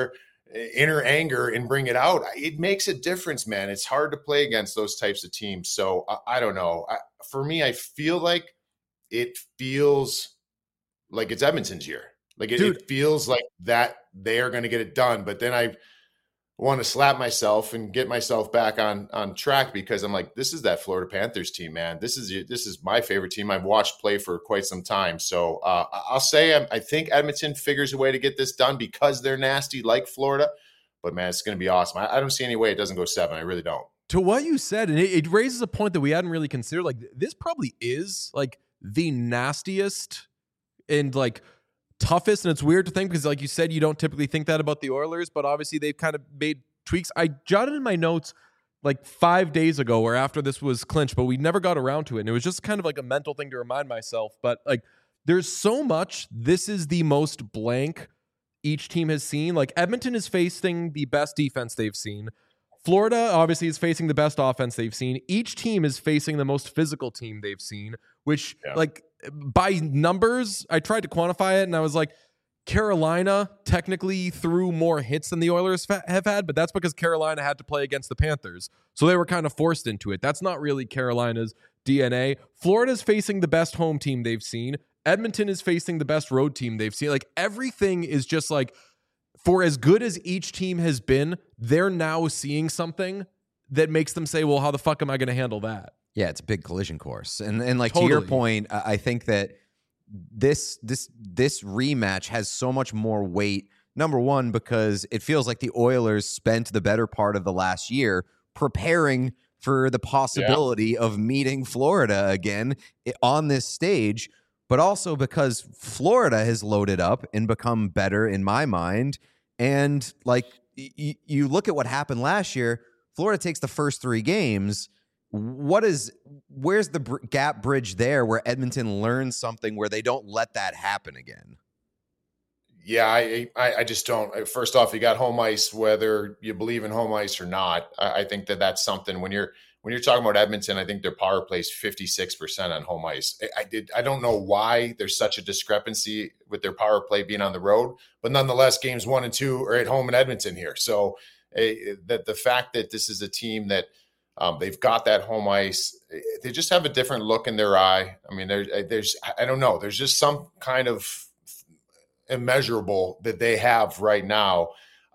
inner anger and bring it out. It makes a difference, man. It's hard to play against those types of teams. So I don't know. For me, I feel like it feels like it's Edmonton's year. Like it feels like that they are going to get it done. But then I want to slap myself and get myself back on track, because I'm like, this is that Florida Panthers team, man. This is my favorite team I've watched play for quite some time. So I'll say I think Edmonton figures a way to get this done because they're nasty like Florida. But, man, it's going to be awesome. I don't see any way it doesn't go 7. I really don't. To what you said, and it raises a point that we hadn't really considered. Like, this probably is, like, the nastiest and, like, toughest. And it's weird to think because, like you said, you don't typically think that about the Oilers. But obviously, they've kind of made tweaks. I jotted in my notes, like, 5 days ago or after this was clinched, but we never got around to it. And it was just kind of like a mental thing to remind myself. But, like, there's so much. This is the most blank each team has seen. Like, Edmonton is facing the best defense they've seen. Florida obviously is facing the best offense they've seen. Each team is facing the most physical team they've seen, which like by numbers, I tried to quantify it and I was like, Carolina technically threw more hits than the Oilers have had, but that's because Carolina had to play against the Panthers. So they were kind of forced into it. That's not really Carolina's DNA. Florida's facing the best home team they've seen. Edmonton is facing the best road team they've seen. Like, everything is just like, for as good as each team has been, they're now seeing something that makes them say, well, how the fuck am I going to handle that? Yeah, it's a big collision course. And like, totally. To your point, I think that this rematch has so much more weight. Number one, because it feels like the Oilers spent the better part of the last year preparing for the possibility of meeting Florida again on this stage, but also because Florida has loaded up and become better in my mind. And like, you look at what happened last year, Florida takes the first 3 games. Where's the gap bridge there where Edmonton learns something where they don't let that happen again? Yeah, I just don't. First off, you got home ice, whether you believe in home ice or not. I think that's something when you're talking about Edmonton, I think their power play is 56% on home ice. I don't know why there's such a discrepancy with their power play being on the road, but nonetheless, games 1 and 2 are at home in Edmonton here. So that the fact that this is a team that they've got that home ice, they just have a different look in their eye. I mean, I don't know. There's just some kind of immeasurable that they have right now.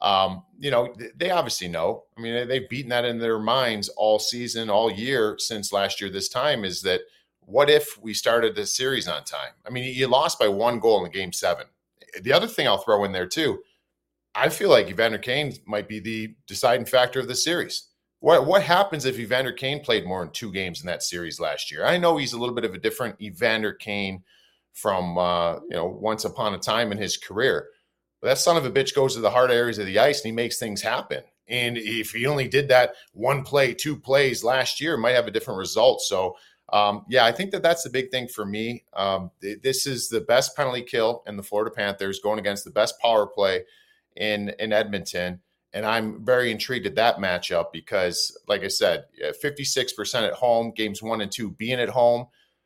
They obviously know. I mean, they've beaten that in their minds all season, all year since last year. This time is that what if we started the series on time? I mean, you lost by 1 goal in Game 7. The other thing I'll throw in there too, I feel like Evander Kane might be the deciding factor of the series. What happens if Evander Kane played more than 2 games in that series last year? I know he's a little bit of a different Evander Kane from once upon a time in his career. But that son of a bitch goes to the hard areas of the ice and he makes things happen. And if he only did that 1 play, 2 plays last year, might have a different result. So, I think that's the big thing for me. This is the best penalty kill in the Florida Panthers going against the best power play in Edmonton. And I'm very intrigued at that matchup because, like I said, 56% at home, games 1 and 2 being at home.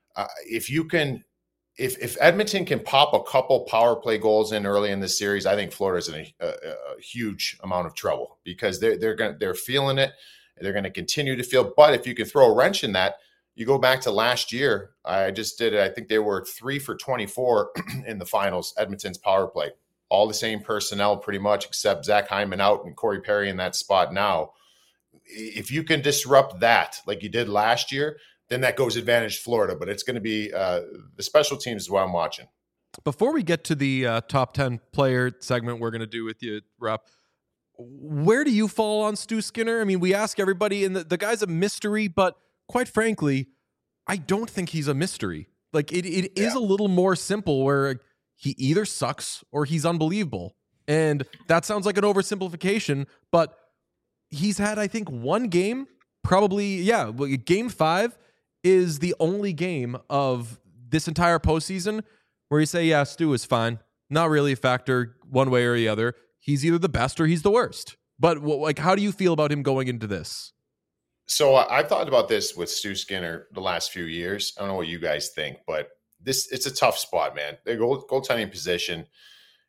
If Edmonton can pop a couple power play goals in early in this series, I think Florida's in a huge amount of trouble because they're feeling it. They're going to continue to feel. But if you can throw a wrench in that, you go back to last year. I just did it. I think they were 3 for 24 in the finals. Edmonton's power play, all the same personnel pretty much, except Zach Hyman out and Corey Perry in that spot now. If you can disrupt that like you did last year, then that goes advantage Florida. But it's going to be the special teams is what I'm watching. Before we get to the top 10 player segment we're going to do with you, Rupp, where do you fall on Stu Skinner? I mean, we ask everybody, and the guy's a mystery, but quite frankly, I don't think he's a mystery. Like, it is a little more simple where he either sucks or he's unbelievable. And that sounds like an oversimplification, but he's had, I think, 1 game, probably, Game 5 is the only game of this entire postseason where you say, yeah, Stu is fine. Not really a factor one way or the other. He's either the best or he's the worst. But how do you feel about him going into this? So I've thought about this with Stu Skinner the last few years. I don't know what you guys think, but it's a tough spot, man. The goaltending position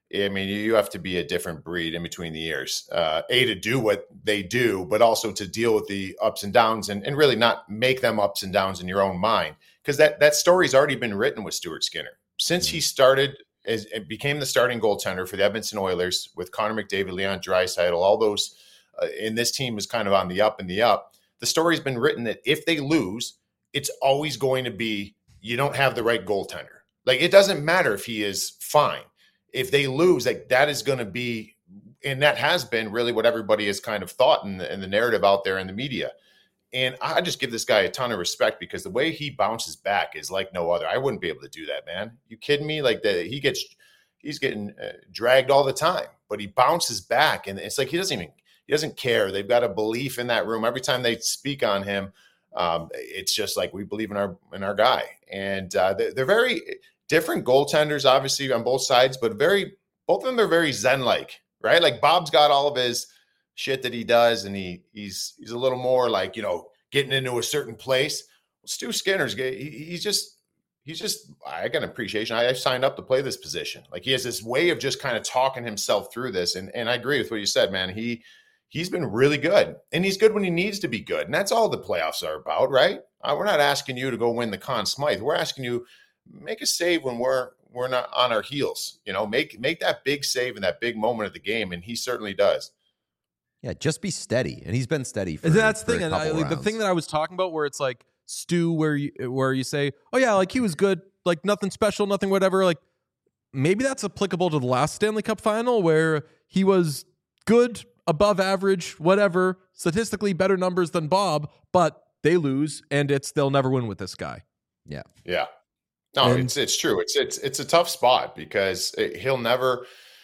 I mean, you have to be a different breed in between the years, to do what they do, but also to deal with the ups and downs and really not make them ups and downs in your own mind. Because that story's already been written with Stuart Skinner. Since he started and became the starting goaltender for the Edmonton Oilers with Connor McDavid, Leon Draisaitl, all those in this team is kind of on the up and the up. The story's been written that if they lose, it's always going to be, you don't have the right goaltender. Like, it doesn't matter if he is fine. If they lose, like, that is going to be, and that has been really what everybody has kind of thought in the narrative out there in the media. And I just give this guy a ton of respect because the way he bounces back is like no other. I wouldn't be able to do that, man. You kidding me? Like, he's getting dragged all the time, but he bounces back, and it's like he doesn't care. They've got a belief in that room. Every time they speak on him, it's just like, we believe in our guy. And they're very different goaltenders, obviously, on both sides, but both of them are very Zen-like, right? Like, Bob's got all of his shit that he does, and he's a little more like, getting into a certain place. Well, Stu Skinner's he's just I got an appreciation. I signed up to play this position. Like, he has this way of just kind of talking himself through this, and I agree with what you said, man. He's been really good, and he's good when he needs to be good, and that's all the playoffs are about, right? We're not asking you to go win the Conn Smythe. We're asking you, make a save when we're not on our heels. Make that big save in that big moment of the game, and he certainly does. Yeah, just be steady, and he's been steady. That's the thing, and the thing that I was talking about, where it's like Stu, where you say, oh yeah, like, he was good, like, nothing special, nothing whatever. Like, maybe that's applicable to the last Stanley Cup final, where he was good, above average, whatever, statistically better numbers than Bob, but they lose, and they'll never win with this guy. Yeah. Yeah. No, it's true. It's a tough spot because he'll never.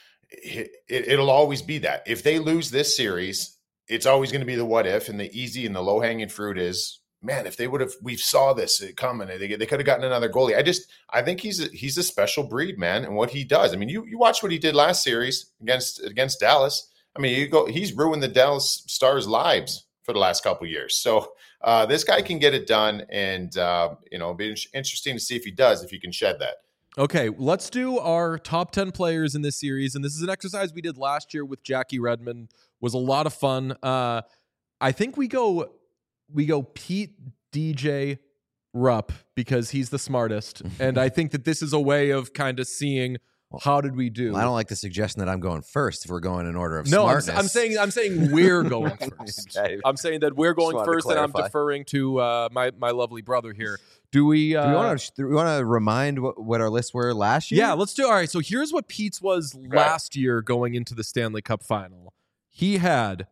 It'll always be that. If they lose this series, it's always going to be the what if, and the easy and the low hanging fruit is, man, if they would have, we saw this coming. They could have gotten another goalie. I think he's a special breed, man, and what he does. I mean, you watch what he did last series against Dallas. I mean, he's ruined the Dallas Stars' lives for the last couple of years. So this guy can get it done, and it'll be interesting to see if he can shed that. Okay, let's do our top 10 players in this series, and this is an exercise we did last year with Jackie Redmond. Was a lot of fun. I think we go Pete, DJ, Rupp, because he's the smartest, and I think that this is a way of kind of seeing how did we do. Well, I don't like the suggestion that I'm going first if we're going in order of smartness. No, I'm saying we're going first. Okay. I'm saying that we're going first, and I'm deferring to my lovely brother here. Do we want to remind what our lists were last year? Yeah, let's do. All right, so here's what Pete's was last year going into the Stanley Cup final. He had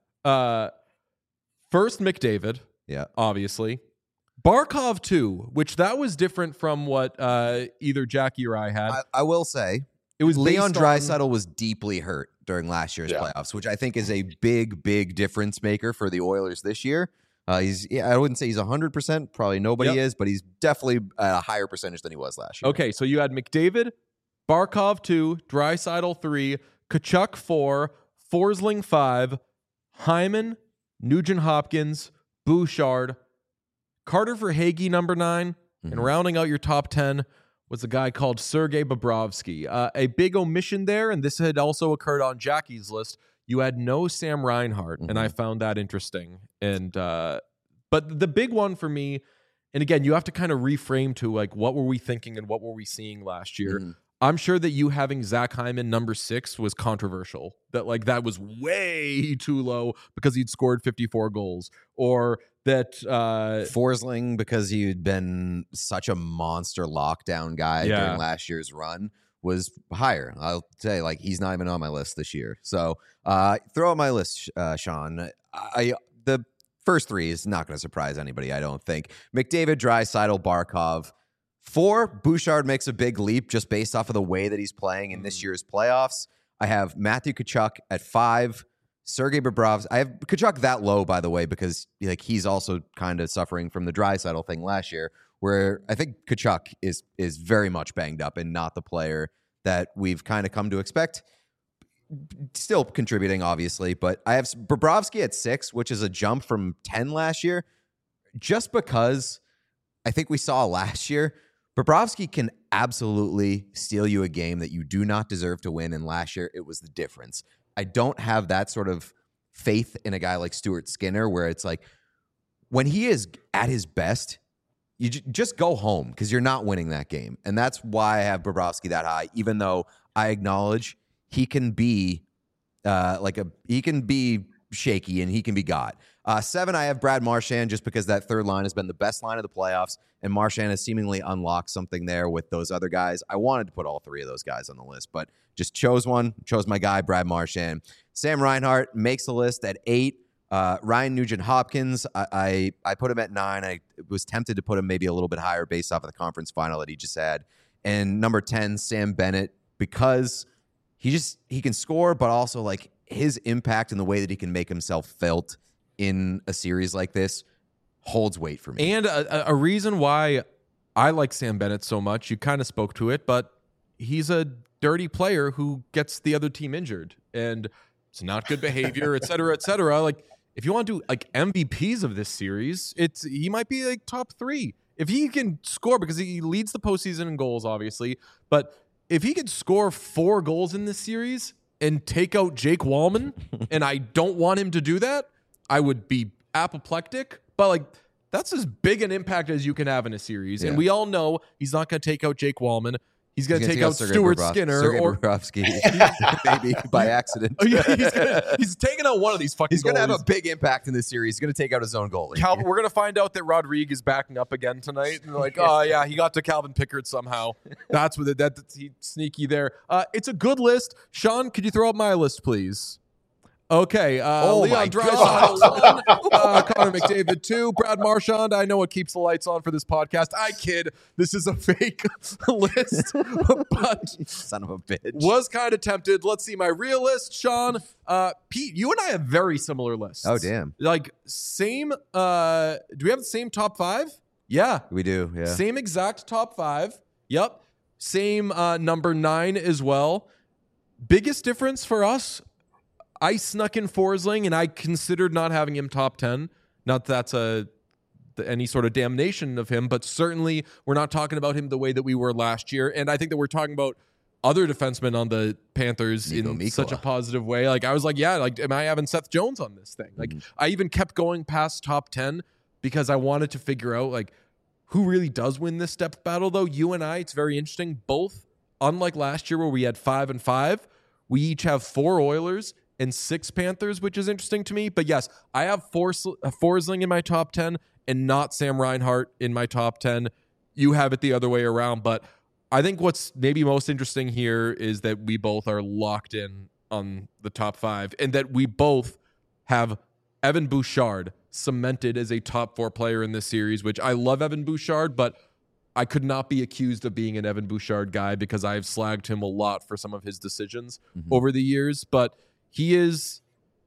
first McDavid, obviously. Barkov 2, which that was different from what either Jackie or I had. I will say, it was Leon Draisaitl was deeply hurt during last year's playoffs, which I think is a big difference maker for the Oilers this year. I wouldn't say he's 100%. Probably nobody is, but he's definitely at a higher percentage than he was last year. Okay, so you had McDavid, Barkov 2, Draisaitl 3, Tkachuk 4, Forsling 5, Hyman, Nugent Hopkins, Bouchard, Carter Verhaeghe number 9, and rounding out your top 10 was a guy called Sergei Bobrovsky. A big omission there, and this had also occurred on Jackie's list. You had no Sam Reinhart, and I found that interesting. And but the big one for me, and again, you have to kind of reframe to like, what were we thinking and what were we seeing last year? I'm sure that you having Zach Hyman number 6 was controversial. That was way too low because he'd scored 54 goals, or that Forsling, because he'd been such a monster lockdown guy during last year's run, was higher. I'll say, he's not even on my list this year. So throw out my list, Sean. The first 3 is not going to surprise anybody, I don't think. McDavid, Draisaitl, Barkov. 4, Bouchard makes a big leap just based off of the way that he's playing in this year's playoffs. I have Matthew Tkachuk at 5. Sergei Bobrovsky. I have Tkachuk that low, by the way, because he's also kind of suffering from the Draisaitl thing last year, where I think Tkachuk is very much banged up and not the player that we've kind of come to expect. Still contributing, obviously, but I have Bobrovsky at 6, which is a jump from 10 last year, just because I think we saw last year Bobrovsky can absolutely steal you a game that you do not deserve to win, and last year it was the difference. I don't have that sort of faith in a guy like Stuart Skinner, where it's like when he is at his best, you just go home because you're not winning that game. And that's why I have Bobrovsky that high, even though I acknowledge he can be he can be shaky and he can be got. 7, I have Brad Marchand, just because that third line has been the best line of the playoffs, and Marchand has seemingly unlocked something there with those other guys. I wanted to put all 3 of those guys on the list, but just chose my guy, Brad Marchand. Sam Reinhart makes the list at 8. Ryan Nugent-Hopkins, I put him at 9. I was tempted to put him maybe a little bit higher based off of the conference final that he just had. And number 10, Sam Bennett, because he can score, but also like his impact and the way that he can make himself felt in a series like this holds weight for me. And a reason why I like Sam Bennett so much, you kind of spoke to it, but he's a dirty player who gets the other team injured, and it's not good behavior, et cetera, et cetera. Like, if you want to do like MVPs of this series, he might be like top 3. If he can score, because he leads the postseason in goals, obviously, but if he could score 4 goals in this series and take out Jake Wallman, and I don't want him to do that, I would be apoplectic. But like, that's as big an impact as you can have in a series. Yeah. And we all know he's not going to take out Jake Wallman. He's going to take out Stuart Skinner or Bobrovsky, maybe by accident. Oh, yeah, he's taking out one of these fucking. He's going to have a big impact in this series. He's going to take out his own goalie. Calvin, we're going to find out that Rodrigue is backing up again tonight. And like, oh yeah, he got to Calvin Pickard somehow. That's with it. That's sneaky there. It's a good list. Sean, could you throw up my list, please? Okay, Leon Draisaitl 1, Connor McDavid 2, Brad Marchand. I know what keeps the lights on for this podcast. I kid. This is a fake list, but son of a bitch. Was kind of tempted. Let's see my real list, Sean. Pete, you and I have very similar lists. Oh damn! Like same. Do we have the same top 5? Yeah, we do. Yeah, same exact top 5. Yep, same number 9 as well. Biggest difference for us. I snuck in Forsling, and I considered not having him top 10. Not that that's any sort of damnation of him, but certainly we're not talking about him the way that we were last year. And I think that we're talking about other defensemen on the Panthers such a positive way. Like, I was like, yeah, like, am I having Seth Jones on this thing? Like, I even kept going past top 10 because I wanted to figure out, like, who really does win this depth battle, though. You and I, it's very interesting. Both, unlike last year where we had 5 and 5, we each have 4 Oilers and 6 Panthers, which is interesting to me. But yes, I have Forsling in my top 10 and not Sam Reinhart in my top 10. You have it the other way around. But I think what's maybe most interesting here is that we both are locked in on the top 5 and that we both have Evan Bouchard cemented as a top 4 player in this series, which I love Evan Bouchard, but I could not be accused of being an Evan Bouchard guy because I've slagged him a lot for some of his decisions over the years. But he's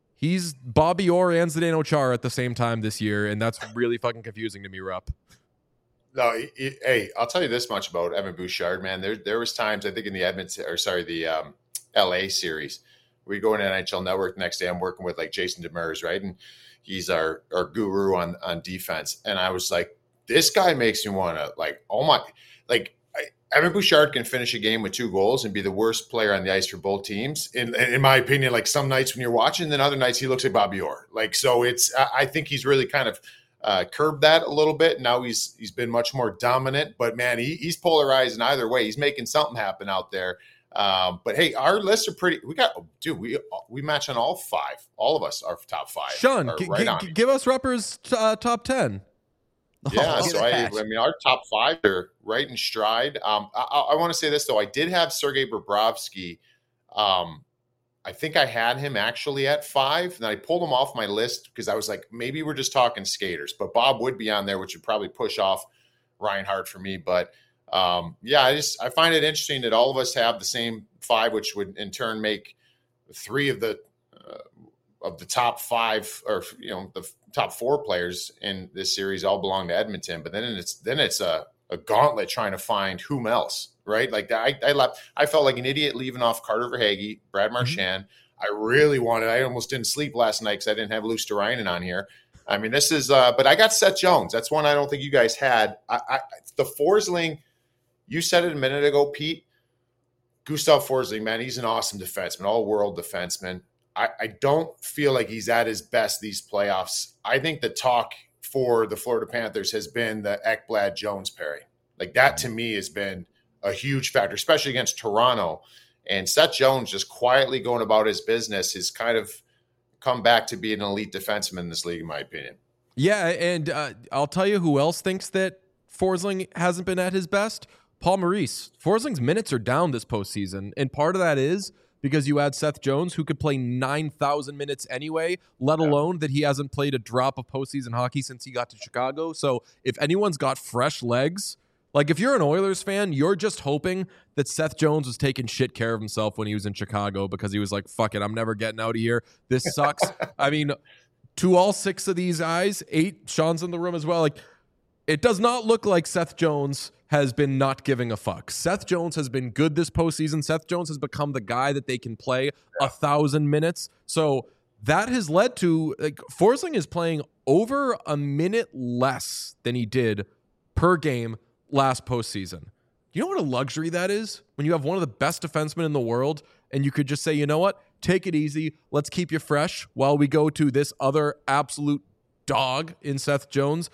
Bobby Orr and Zdeno Chara at the same time this year, and that's really fucking confusing to me, Rupp. No, hey, I'll tell you this much about Evan Bouchard, man. There was times, I think in the LA series, we go into NHL Network the next day. I'm working with like Jason Demers, right? And he's our guru on defense. And I was like, this guy makes me want to Evan Bouchard can finish a game with 2 goals and be the worst player on the ice for both teams. In my opinion, like some nights when you're watching, then other nights he looks like Bobby Orr. Like, so I think he's really kind of curbed that a little bit. Now he's been much more dominant, but man, he's polarizing either way. He's making something happen out there. But hey, our lists are pretty. We match on all 5. All of us are top 5. Sean, give us Rupper's top 10. Yeah, so I mean, our top 5 are right in stride. I want to say this though. I did have Sergei Bobrovsky. I think I had him actually at 5, and I pulled him off my list because I was like, maybe we're just talking skaters. But Bob would be on there, which would probably push off Reinhart for me. But I find it interesting that all of us have the same 5, which would in turn make 3 of the top 5, or the top 4 players in this series all belong to Edmonton. But then it's a gauntlet trying to find whom else, right? Like I felt like an idiot leaving off Carter Verhaeghe, Brad Marchand. I almost didn't sleep last night because I didn't have Luosterainen on here. I mean, this is but I got Seth Jones. That's one I don't think you guys had. The Forsling You said it a minute ago, Pete. Gustav Forsling, man, he's an awesome defenseman, all-world defenseman. I don't feel like he's at his best these playoffs. I think the talk for the Florida Panthers has been the Ekblad-Jones pairing. Like that to me has been a huge factor, especially against Toronto. And Seth Jones just quietly going about his business has kind of come back to be an elite defenseman in this league, in my opinion. Yeah, and I'll tell you who else thinks that Forsling hasn't been at his best. Paul Maurice. Forsling's minutes are down this postseason, and part of that is because you add Seth Jones, who could play 9,000 minutes anyway, let alone that he hasn't played a drop of postseason hockey since he got to Chicago. So if anyone's got fresh legs, like if you're an Oilers fan, you're just hoping that Seth Jones was taking shit care of himself when he was in Chicago because he was like, fuck it, I'm never getting out of here. This sucks. I mean, to all 6 of these guys, 8, Sean's in the room as well, like it does not look like Seth Jones has been not giving a fuck. Seth Jones has been good this postseason. Seth Jones has become the guy that they can play 1,000 minutes. So that has led to, like, Forsling is playing over a minute less than he did per game last postseason. You know what a luxury that is? When you have one of the best defensemen in the world and you could just say, you know what? Take it easy. Let's keep you fresh while we go to this other absolute dog in Seth Jones.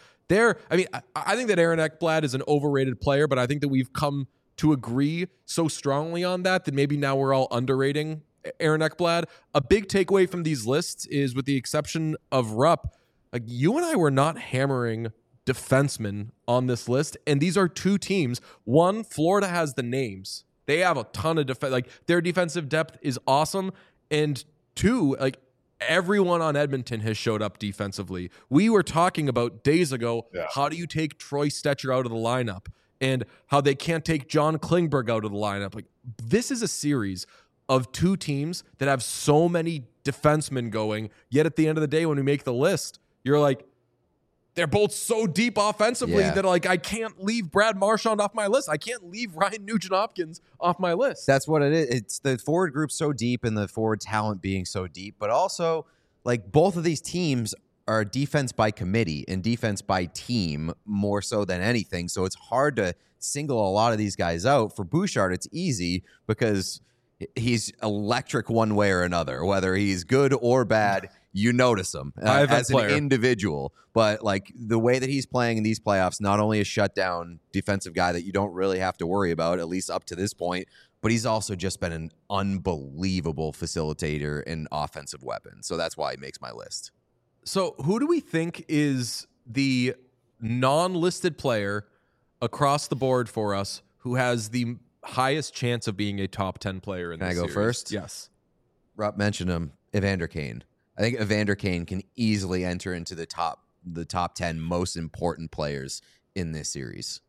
I think that Aaron Ekblad is an overrated player, but I think that we've come to agree so strongly on that maybe now we're all underrating Aaron Ekblad. A big takeaway from these lists is, with the exception of Rupp, like you and I were not hammering defensemen on this list, and these are 2 teams. One, Florida has the names. They have a ton of defense. Like their defensive depth is awesome. And 2, like everyone on Edmonton has showed up defensively. We were talking about days ago, how do you take Troy Stecher out of the lineup and how they can't take John Klingberg out of the lineup. Like this is a series of 2 teams that have so many defensemen going, yet at the end of the day, when we make the list, you're like, they're both so deep offensively that like I can't leave Brad Marchand off my list. I can't leave Ryan Nugent-Hopkins off my list. That's what it is. It's the forward group so deep and the forward talent being so deep, but also like both of these teams are defense by committee and defense by team more so than anything. So it's hard to single a lot of these guys out. For Bouchard, it's easy because he's electric one way or another, whether he's good or bad. You notice him as an individual, but like the way that he's playing in these playoffs, not only a shutdown defensive guy that you don't really have to worry about, at least up to this point, but he's also just been an unbelievable facilitator and offensive weapon. So that's why he makes my list. So who do we think is the non-listed player across the board for us who has the highest chance of being a top 10 player in this series? Can I go first? Yes. Rob mentioned him, Evander Kane. I think Evander Kane can easily enter into the top 10 most important players in this series.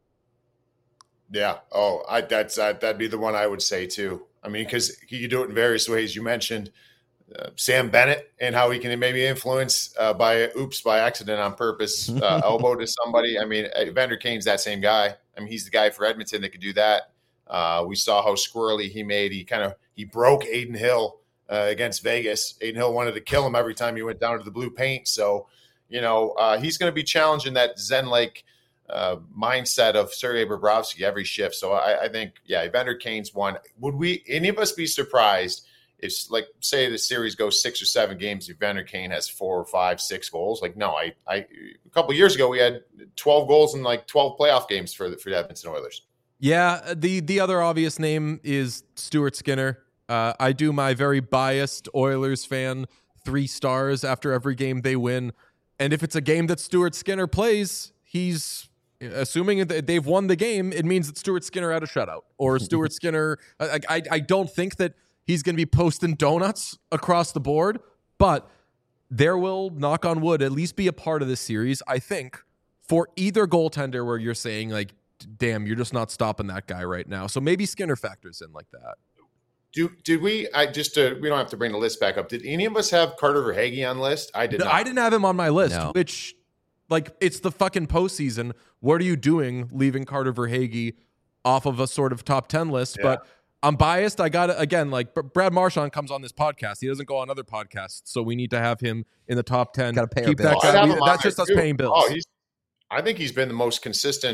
Yeah. Oh, that'd be the one I would say too. I mean, because he could do it in various ways. You mentioned Sam Bennett and how he can maybe influence by accident on purpose, elbow to somebody. I mean, Evander Kane's that same guy. I mean, he's the guy for Edmonton that could do that. We saw how squirrely he made. He broke Adin Hill against Vegas. Adin Hill wanted to kill him every time he went down to the blue paint. So, he's going to be challenging that Zen-like mindset of Sergei Bobrovsky every shift. So I think, Evander Kane's one. Would any of us be surprised if, like, say the series goes 6 or 7 games, Evander Kane has 4 or 5, 6 goals? Like, no, a couple of years ago we had 12 goals in like 12 playoff games for the Edmonton Oilers. Yeah, the other obvious name is Stuart Skinner. I do my very biased Oilers fan 3 stars after every game they win. And if it's a game that Stuart Skinner plays, he's assuming that they've won the game. It means that Stuart Skinner had a shutout or Stuart Skinner. I don't think that he's going to be posting donuts across the board, but there will, knock on wood, at least be a part of this series, I think, for either goaltender where you're saying like, damn, you're just not stopping that guy right now. So maybe Skinner factors in like that. Did we? We don't have to bring the list back up. Did any of us have Carter Verhaeghe on the list? I did not. I didn't have him on my list, No. which, like, it's the fucking postseason. What are you doing leaving Carter Verhaeghe off of a sort of top 10 list? Yeah. But I'm biased. I got to, again, like, Brad Marchand comes on this podcast. He doesn't go on other podcasts, so we need to have him in the top 10. Gotta pay our Keep that bills. guy. I'd have him on That's there, just us too. paying bills. I think he's been the most consistent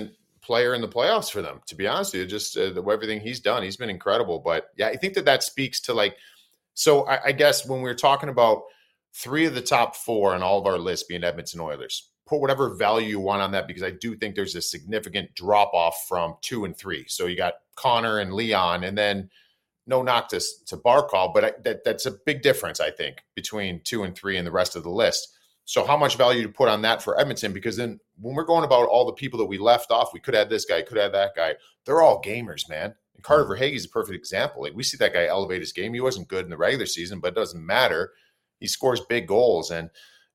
player in the playoffs for them, to be honest with you. Just everything he's done, he's been incredible. But yeah, I think that speaks to like, so I guess when we were talking about 3 of the top 4 on all of our lists being Edmonton Oilers, put whatever value you want on that, because I do think there's a significant drop off from 2 and 3. So you got Connor and Leon, and then no knock to Barkov, but that's a big difference, I think, between 2 and 3 and the rest of the list. So how much value to put on that for Edmonton? Because then when we're going about all the people that we left off, we could have this guy, could have that guy. They're all gamers, man. And Carter Verhaeghe is a perfect example. Like, we see that guy elevate his game. He wasn't good in the regular season, but it doesn't matter. He scores big goals. And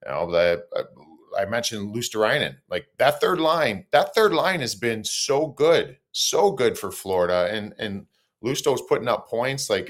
I mentioned Luosterainen. Like, that third line has been so good for Florida. And Lusto's putting up points. Like,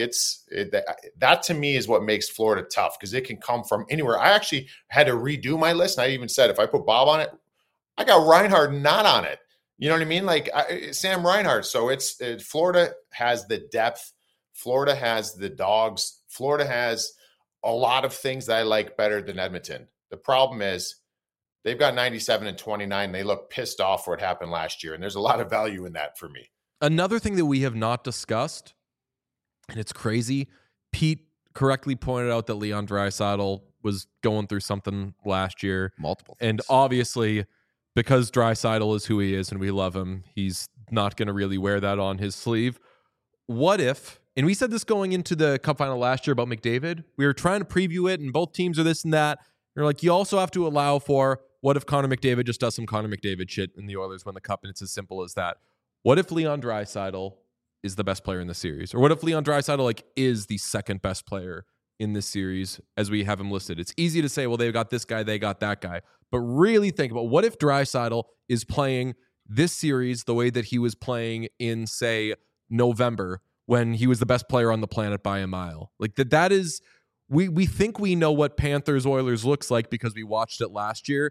that to me is what makes Florida tough, because it can come from anywhere. I actually had to redo my list, and I even said if I put Bob on it, I got Reinhart not on it. You know what I mean? Like, Sam Reinhart. So Florida has the depth. Florida has the dogs. Florida has a lot of things that I like better than Edmonton. The problem is they've got 97 and 29. They look pissed off for what happened last year, and there's a lot of value in that for me. Another thing that we have not discussed, and it's crazy, Pete correctly pointed out that Leon Draisaitl was going through something last year. Multiple things. And obviously, because Draisaitl is who he is and we love him, he's not going to really wear that on his sleeve. What if, and we said this going into the Cup final last year about McDavid, we were trying to preview it, and both teams are this and that. You're like, you also have to allow for, what if Connor McDavid just does some Connor McDavid shit and the Oilers win the Cup, and it's as simple as that. What if Leon Draisaitl is the best player in the series? Or what if Leon Draisaitl is the second best player in this series as we have him listed? It's easy to say, well, they've got this guy, they got that guy. But really think about, what if Draisaitl is playing this series the way that he was playing in, say, November, when he was the best player on the planet by a mile? Like, that is, we think we know what Panthers Oilers looks like because we watched it last year.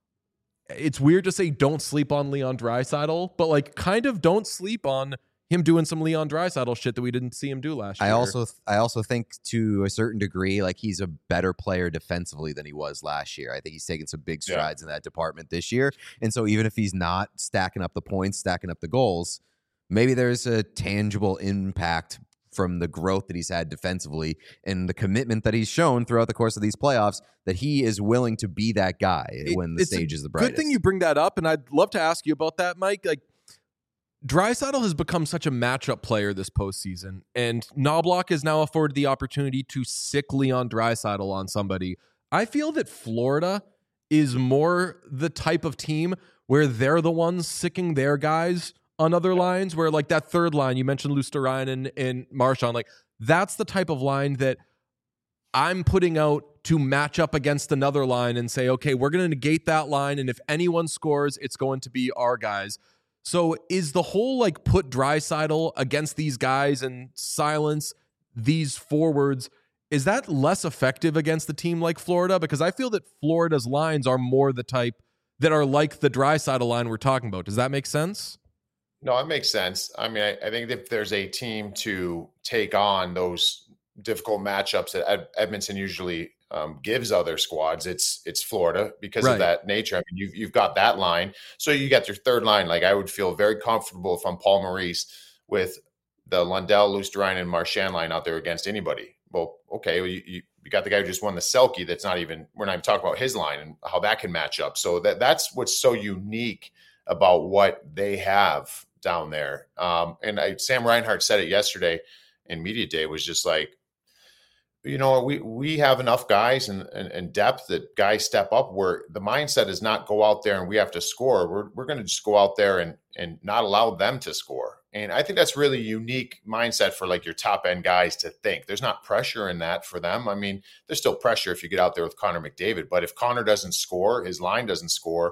It's weird to say don't sleep on Leon Draisaitl, but like, kind of don't sleep on him doing some Leon Draisaitl shit that we didn't see him do last year. I also think, to a certain degree, like, he's a better player defensively than he was last year. I think he's taken some big strides in that department this year. And so even if he's not stacking up the points, stacking up the goals, maybe there's a tangible impact from the growth that he's had defensively and the commitment that he's shown throughout the course of these playoffs, that he is willing to be that guy when the stage is the brightest. Good thing you bring that up, and I'd love to ask you about that, Mike. Like, Draisaitl has become such a matchup player this postseason, and Knobloch is now afforded the opportunity to sick Leon Draisaitl on somebody. I feel that Florida is more the type of team where they're the ones sicking their guys on other lines, where like that third line, you mentioned Luosterainen and Marchand, like that's the type of line that I'm putting out to match up against another line and say, okay, we're going to negate that line, and if anyone scores, it's going to be our guys. So is the whole like put Draisaitl against these guys and silence these forwards, is that less effective against a team like Florida? Because I feel that Florida's lines are more the type that are like the Draisaitl line we're talking about. Does that make sense? No, it makes sense. I mean, I think if there's a team to take on those difficult matchups that Edmonton usually gives other squads, it's Florida because of that nature. I mean, you've got that line. So you got your third line. Like, I would feel very comfortable if I'm Paul Maurice with the Lundell, Luosterainen, and Marchand line out there against anybody. Well, okay, you got the guy who just won the Selke. That's not even, we're not even talking about his line and how that can match up. So that's what's so unique about what they have down there. And Sam Reinhart said it yesterday in Media Day, was just like, you know, we have enough guys and depth that guys step up, where the mindset is not go out there and we have to score. We're going to just go out there and not allow them to score. And I think that's really unique mindset for like your top end guys to think. There's not pressure in that for them. I mean, there's still pressure if you get out there with Connor McDavid, but if Connor doesn't score, his line doesn't score,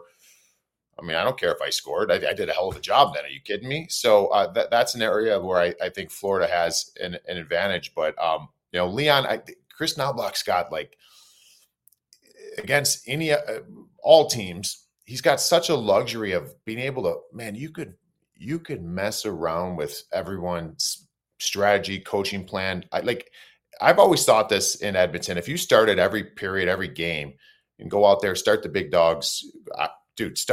I mean, I don't care if I scored. I did a hell of a job then. Are you kidding me? So that's an area where I think Florida has an advantage. But, you know, Leon, Chris Knobloch's got, like, against all teams, he's got such a luxury of being able to, man, you could mess around with everyone's strategy, coaching plan. I've always thought this in Edmonton. If you started every period, every game, and go out there, start the big dogs, dude, start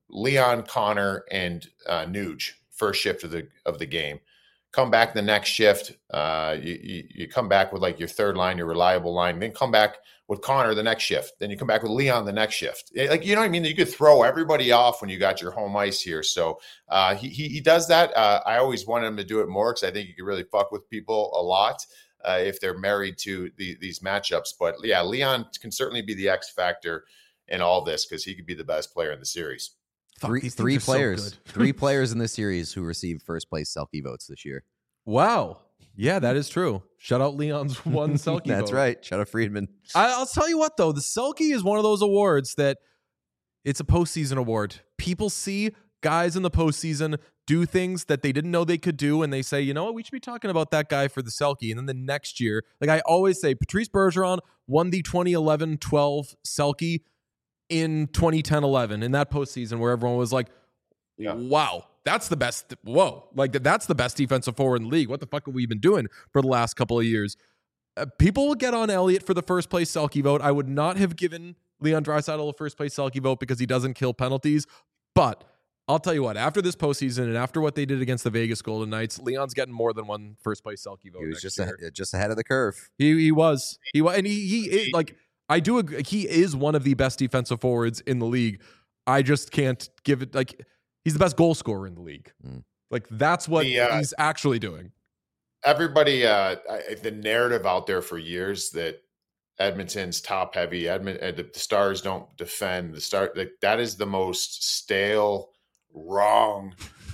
Leon, Connor, and Nuge first shift of the game. Come back the next shift. You come back with like your third line, your reliable line. Then come back with Connor the next shift. Then you come back with Leon the next shift. Like, you know what I mean? You could throw everybody off when you got your home ice here. So he does that. I always wanted him to do it more because I think you could really fuck with people a lot if they're married to these matchups. But yeah, Leon can certainly be the X factor in all this because he could be the best player in the series. Three players. So 3 players in this series who received first place Selke votes this year. Wow. Yeah, that is true. Shout out Leon's one Selke That's vote. right. Shout out Friedman. I'll tell you what, though. The Selke is one of those awards that it's a postseason award. People see guys in the postseason do things that they didn't know they could do, and they say, you know what, we should be talking about that guy for the Selke. And then the next year, like I always say, Patrice Bergeron won the 2011-12 Selke in 2010-11 in that postseason where everyone was like, wow, that's the best. Whoa, like that's the best defensive forward in the league. What the fuck have we been doing for the last couple of years? People will get on Elliott for the first place Selke vote. I would not have given Leon Draisaitl a first place Selke vote because he doesn't kill penalties. But I'll tell you what, after this postseason and after what they did against the Vegas Golden Knights, Leon's getting more than one first place Selke vote. He was just ahead of the curve. He was, and he like. I do agree. He is one of the best defensive forwards in the league. I just can't give it like he's the best goal scorer in the league. Like that's what he's actually doing. Everybody, the narrative out there for years that Edmonton's top heavy. The Stars don't defend. That is the most stale, wrong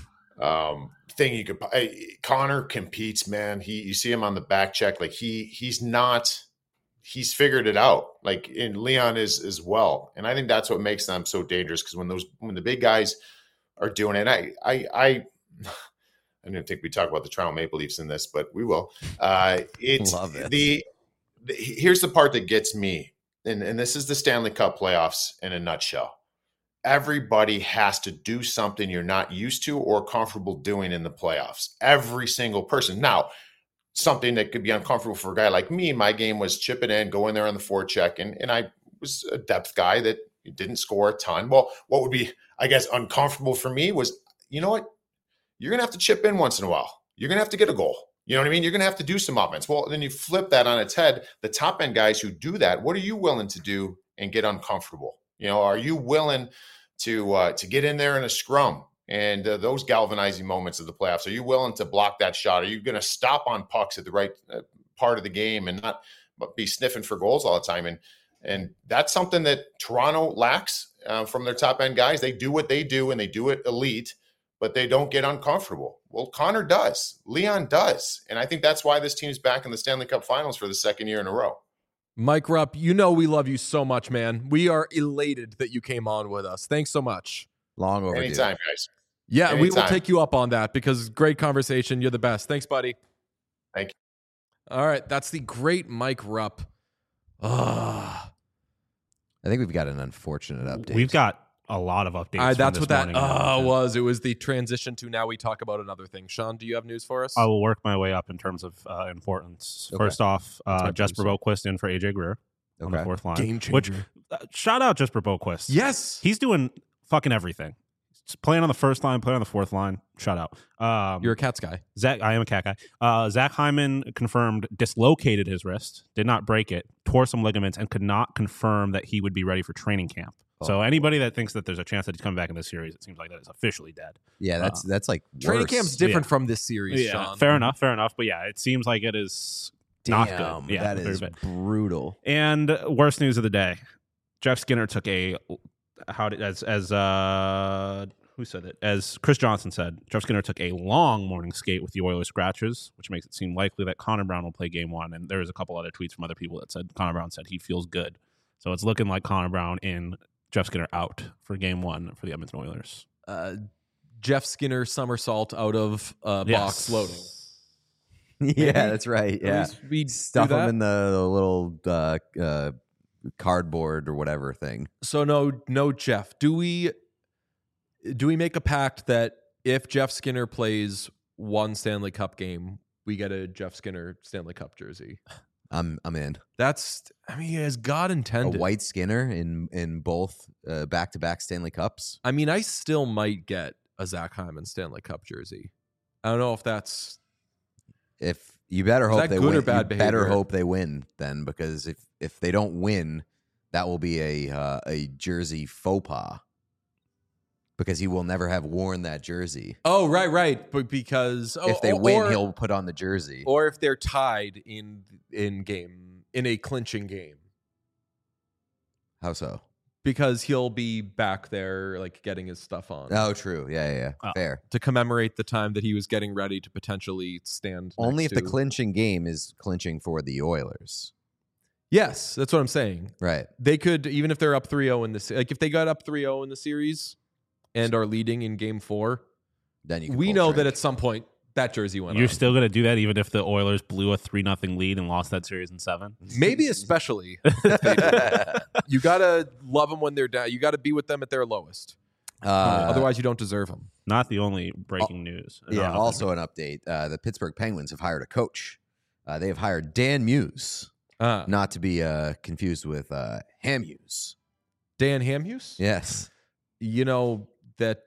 thing you could. Connor competes, man. You see him on the back check. Like he's not. He's figured it out, like in Leon is as well. And I think that's what makes them so dangerous because when the big guys are doing it, I didn't think we talk about the Toronto Maple Leafs in this, but we will. Love it. Here's the part that gets me, and this is the Stanley Cup playoffs in a nutshell. Everybody has to do something you're not used to or comfortable doing in the playoffs. Every single person. Now, something that could be uncomfortable for a guy like me. My game was chip it in, go in there on the forecheck, and I was a depth guy that didn't score a ton. Well, what would be, I guess, uncomfortable for me was, you know what? You're going to have to chip in once in a while. You're going to have to get a goal. You know what I mean? You're going to have to do some offense. Well, then you flip that on its head. The top end guys who do that, what are you willing to do and get uncomfortable? You know, are you willing to get in there in a scrum? And those galvanizing moments of the playoffs, are you willing to block that shot? Are you going to stop on pucks at the right part of the game and not be sniffing for goals all the time? And that's something that Toronto lacks from their top end guys. They do what they do and they do it elite, but they don't get uncomfortable. Well, Connor does. Leon does. And I think that's why this team is back in the Stanley Cup Finals for the second year in a row. Mike Rupp, you know we love you so much, man. We are elated that you came on with us. Thanks so much. Long overdue. Anytime, guys. Yeah, Anytime. We will take you up on that because great conversation. You're the best. Thanks, buddy. Thank you. All right, that's the great Mike Rupp. I think we've got an unfortunate update. We've got a lot of updates. That's what that was. It was the transition to now we talk about another thing. Sean, do you have news for us? I will work my way up in terms of importance. Okay. First off, Jesper Boquist in for AJ Greer on the fourth line. Game changer. Shout out Jesper Boquist. Yes. He's doing fucking everything. He's playing on the first line, playing on the fourth line. Shout out. You're a Cats guy. I am a Cat guy. Zach Hyman confirmed dislocated his wrist, did not break it, tore some ligaments, and could not confirm that he would be ready for training camp. So anybody that thinks that there's a chance that he's coming back in this series, it seems like that is officially dead. Yeah, that's like training worse. camp's different from this series, Sean. Fair enough. But yeah, it seems like it is not good. Yeah, that is brutal. And worst news of the day: Jeff Skinner took as Chris Johnson said, Jeff Skinner took a long morning skate with the Oilers scratchers, which makes it seem likely that Connor Brown will play game one. And there's a couple other tweets from other people that said Connor Brown said he feels good. So it's looking like Connor Brown in, Jeff Skinner out for game one for the Edmonton Oilers. Jeff Skinner somersault out of box loading. Yeah, that's right. Yeah, we stuff him in the little cardboard or whatever thing. So no, Jeff. Do we make a pact that if Jeff Skinner plays one Stanley Cup game, we get a Jeff Skinner Stanley Cup jersey? I'm in. As God intended. A White Skinner in both back-to-back Stanley Cups. I mean, I still might get a Zach Hyman Stanley Cup jersey. I don't know if that's... If you better hope they good win. Or bad you better hope they win then, because if they don't win, that will be a jersey faux pas. Because he will never have worn that jersey. Oh, right. But because if they win, he'll put on the jersey. Or if they're tied in a clinching game. How so? Because he'll be back there, like, getting his stuff on. Oh, true. Yeah. Fair. To commemorate the time that he was getting ready to potentially stand. Only if the clinching game is clinching for the Oilers. Yes, that's what I'm saying. Right. They could, even if they're up 3-0 in this, like if they got up 3-0 in the series and are leading in Game 4, then we know that at some point that jersey went. You're still going to do that even if the Oilers blew a 3-0 lead and lost that series in 7? Maybe especially. You got to love them when they're down. You got to be with them at their lowest. Otherwise, you don't deserve them. Not the only breaking news. Also an update. The Pittsburgh Penguins have hired a coach. They have hired Dan Muse. Not to be confused with Hamhuis. Dan Hamhuis? Yes. You know that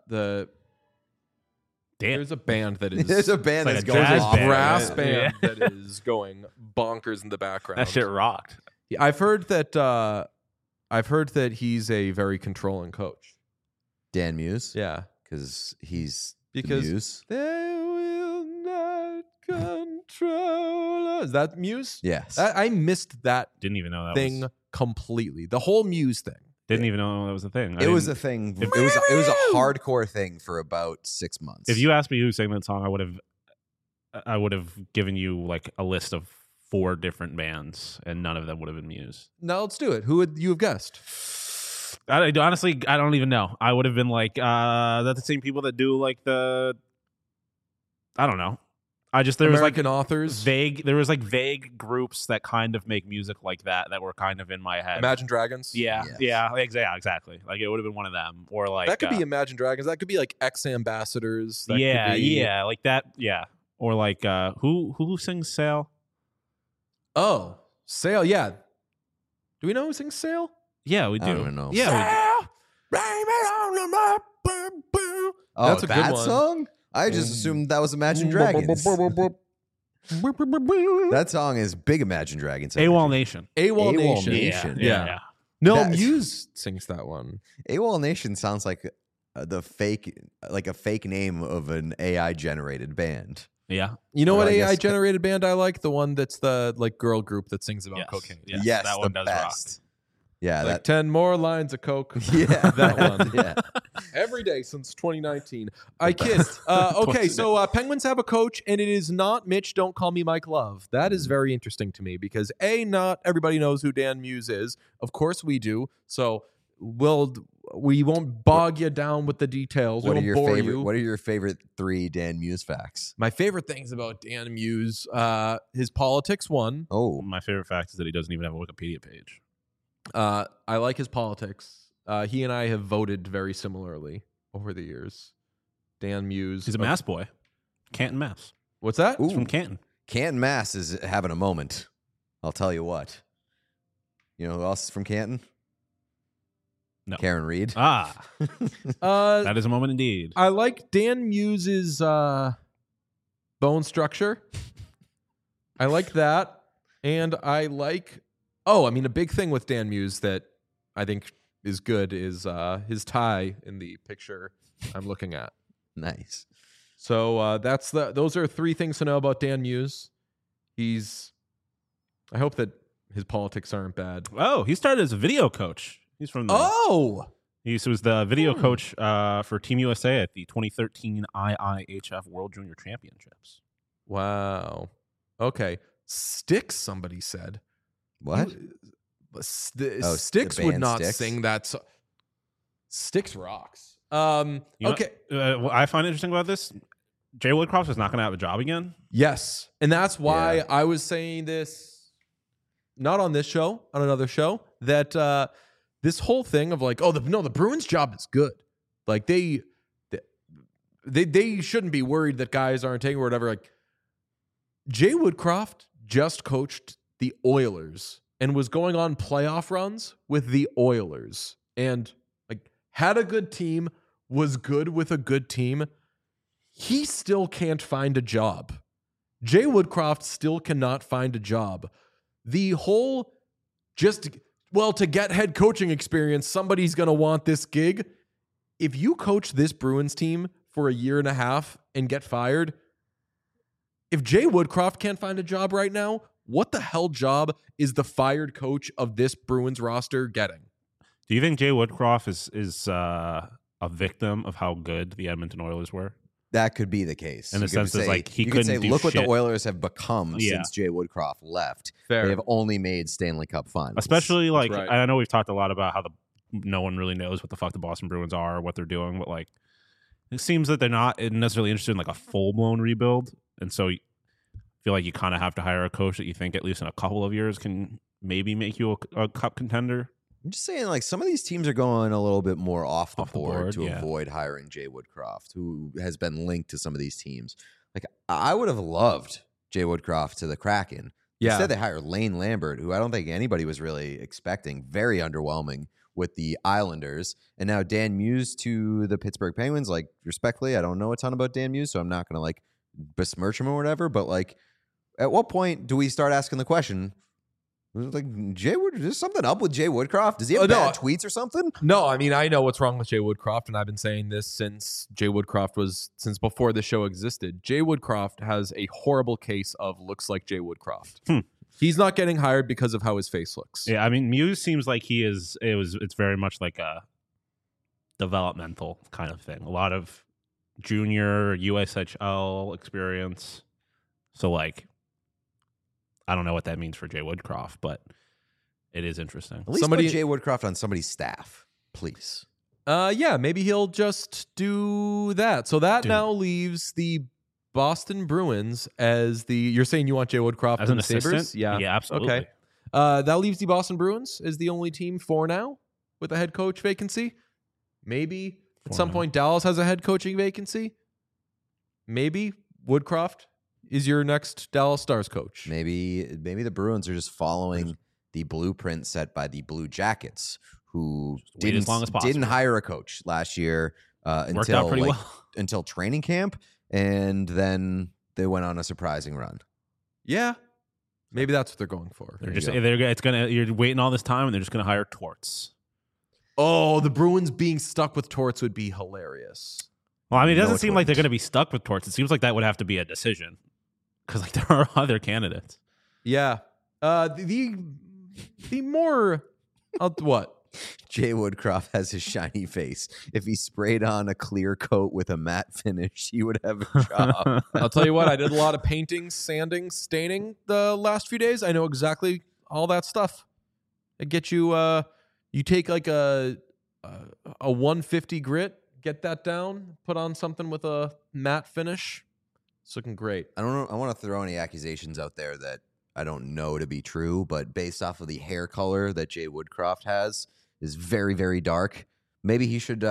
there's a band that is... There's a band that's going off. A brass band that is going bonkers in the background. That shit rocked. I've heard that he's a very controlling coach. Dan Muse? Yeah. Because he's because the Muse? They will not control us. Is that Muse? Yes. I missed that Didn't even know that thing completely. The whole Muse thing. Didn't even know that was a thing. It was a thing. It was a hardcore thing for about 6 months. If you asked me who sang that song, I would have given you like a list of 4 different bands, and none of them would have been Muse. Now let's do it. Who would you have guessed? Honestly, I don't even know. I would have been like, that's the same people that do like I don't know. There American was like authors. There was like vague groups that kind of make music like that were kind of in my head. Imagine Dragons. Yeah, exactly. Like it would have been one of them, or like that could be Imagine Dragons. That could be like X Ambassadors. Like that. Yeah, or like who sings Sail? Oh, Sail. Yeah. Do we know who sings Sail? Yeah, we do. I don't know. Yeah. Oh, that's a good one. Song? I just assumed that was Imagine Dragons. That song is big Imagine Dragons. AWOL Nation. AWOL Nation. Yeah. No, Muse sings that one. AWOL Nation sounds like a fake name of an AI generated band. Yeah. You know what AI generated band I like? The one that's the like girl group that sings about cocaine. Yes, that one does rock. Yeah, like 10 more lines of coke. Yeah, that one. Yeah. Every day since 2019. I kid. Okay, so Penguins have a coach, and it is not Mitch. Don't call me Mike Love. That is very interesting to me because not everybody knows who Dan Muse is. Of course we do. So we won't bog you down with the details. What are your favorite 3 Dan Muse facts? My favorite things about Dan Muse, his politics. One. Oh, my favorite fact is that he doesn't even have a Wikipedia page. I like his politics. He and I have voted very similarly over the years. Dan Muse. He's a Mass boy. Canton, Mass. What's that? He's from Canton. Canton, Mass is having a moment. I'll tell you what. You know who else is from Canton? No. Karen Reed. That is a moment indeed. I like Dan Muse's bone structure. I like that. And I like... Oh, I mean, a big thing with Dan Muse that I think is good is his tie in the picture I'm looking at. Nice. So those are 3 things to know about Dan Muse. I hope that his politics aren't bad. Oh, he started as a video coach. He's from he was the video coach for Team USA at the 2013 IIHF World Junior Championships. Wow. Okay. Styx, somebody said. What? Styx would not sing that song. Styx rocks. Okay. What I find interesting about this, Jay Woodcroft is not going to have a job again. Yes. And that's why I was saying this, not on this show, on another show, that this whole thing of like, the Bruins job is good. Like they shouldn't be worried that guys aren't taking or whatever. Like Jay Woodcroft just coached the Oilers and was going on playoff runs with the Oilers and like had a good team, was good with a good team, he still can't find a job. Jay Woodcroft still cannot find a job. The whole to get head coaching experience, somebody's going to want this gig. If you coach this Bruins team for a year and a half and get fired, if Jay Woodcroft can't find a job right now, what the hell job is the fired coach of this Bruins roster getting? Do you think Jay Woodcroft is a victim of how good the Edmonton Oilers were? That could be the case. In the sense that like he couldn't do look shit. What the Oilers have become since Jay Woodcroft left. Fair. They have only made Stanley Cup finals. Especially like right. I know we've talked a lot about how no one really knows what the fuck the Boston Bruins are or what they're doing, but like it seems that they're not necessarily interested in like a full blown rebuild, and so I feel like you kind of have to hire a coach that you think at least in a couple of years can maybe make you a cup contender. I'm just saying, like, some of these teams are going a little bit more off the board to avoid hiring Jay Woodcroft, who has been linked to some of these teams. Like, I would have loved Jay Woodcroft to the Kraken. Yeah. Instead, they hired Lane Lambert, who I don't think anybody was really expecting. Very underwhelming with the Islanders. And now Dan Muse to the Pittsburgh Penguins. Like, respectfully, I don't know a ton about Dan Muse, so I'm not going to, like, besmirch him or whatever. But, like, at what point do we start asking the question, like, there's something up with Jay Woodcroft? Does he have bad tweets or something? No, I mean, I know what's wrong with Jay Woodcroft, and I've been saying this since before the show existed. Jay Woodcroft has a horrible case of looks like Jay Woodcroft. He's not getting hired because of how his face looks. Yeah, I mean, Muse seems like it's very much like a developmental kind of thing. A lot of junior USHL experience. So, like, I don't know what that means for Jay Woodcroft, but it is interesting. At least put Jay Woodcroft on somebody's staff, please. Yeah, maybe he'll just do that. So that now leaves the Boston Bruins as you're saying you want Jay Woodcroft as an assistant? Sabres? Yeah, absolutely. Okay. That leaves the Boston Bruins as the only team for now with a head coach vacancy. Maybe at some point Dallas has a head coaching vacancy. Maybe Woodcroft is your next Dallas Stars coach. Maybe the Bruins are just following the blueprint set by the Blue Jackets, who didn't hire a coach last year until training camp, and then they went on a surprising run. Yeah, maybe that's what they're going for. You're waiting all this time, and they're just gonna hire Torts. Oh, the Bruins being stuck with Torts would be hilarious. Well, I mean, it doesn't seem like they're going to be stuck with Torts. It seems like that would have to be a decision because like there are other candidates. Yeah. The more what? Jay Woodcroft has his shiny face. If he sprayed on a clear coat with a matte finish, he would have a job. I'll tell you what, I did a lot of painting, sanding, staining the last few days. I know exactly all that stuff. It gets you you take like a 150 grit, get that down, put on something with a matte finish. It's looking great. I don't know. I want to throw any accusations out there that I don't know to be true, but based off of the hair color that Jay Woodcroft has, is very, very dark. Maybe he should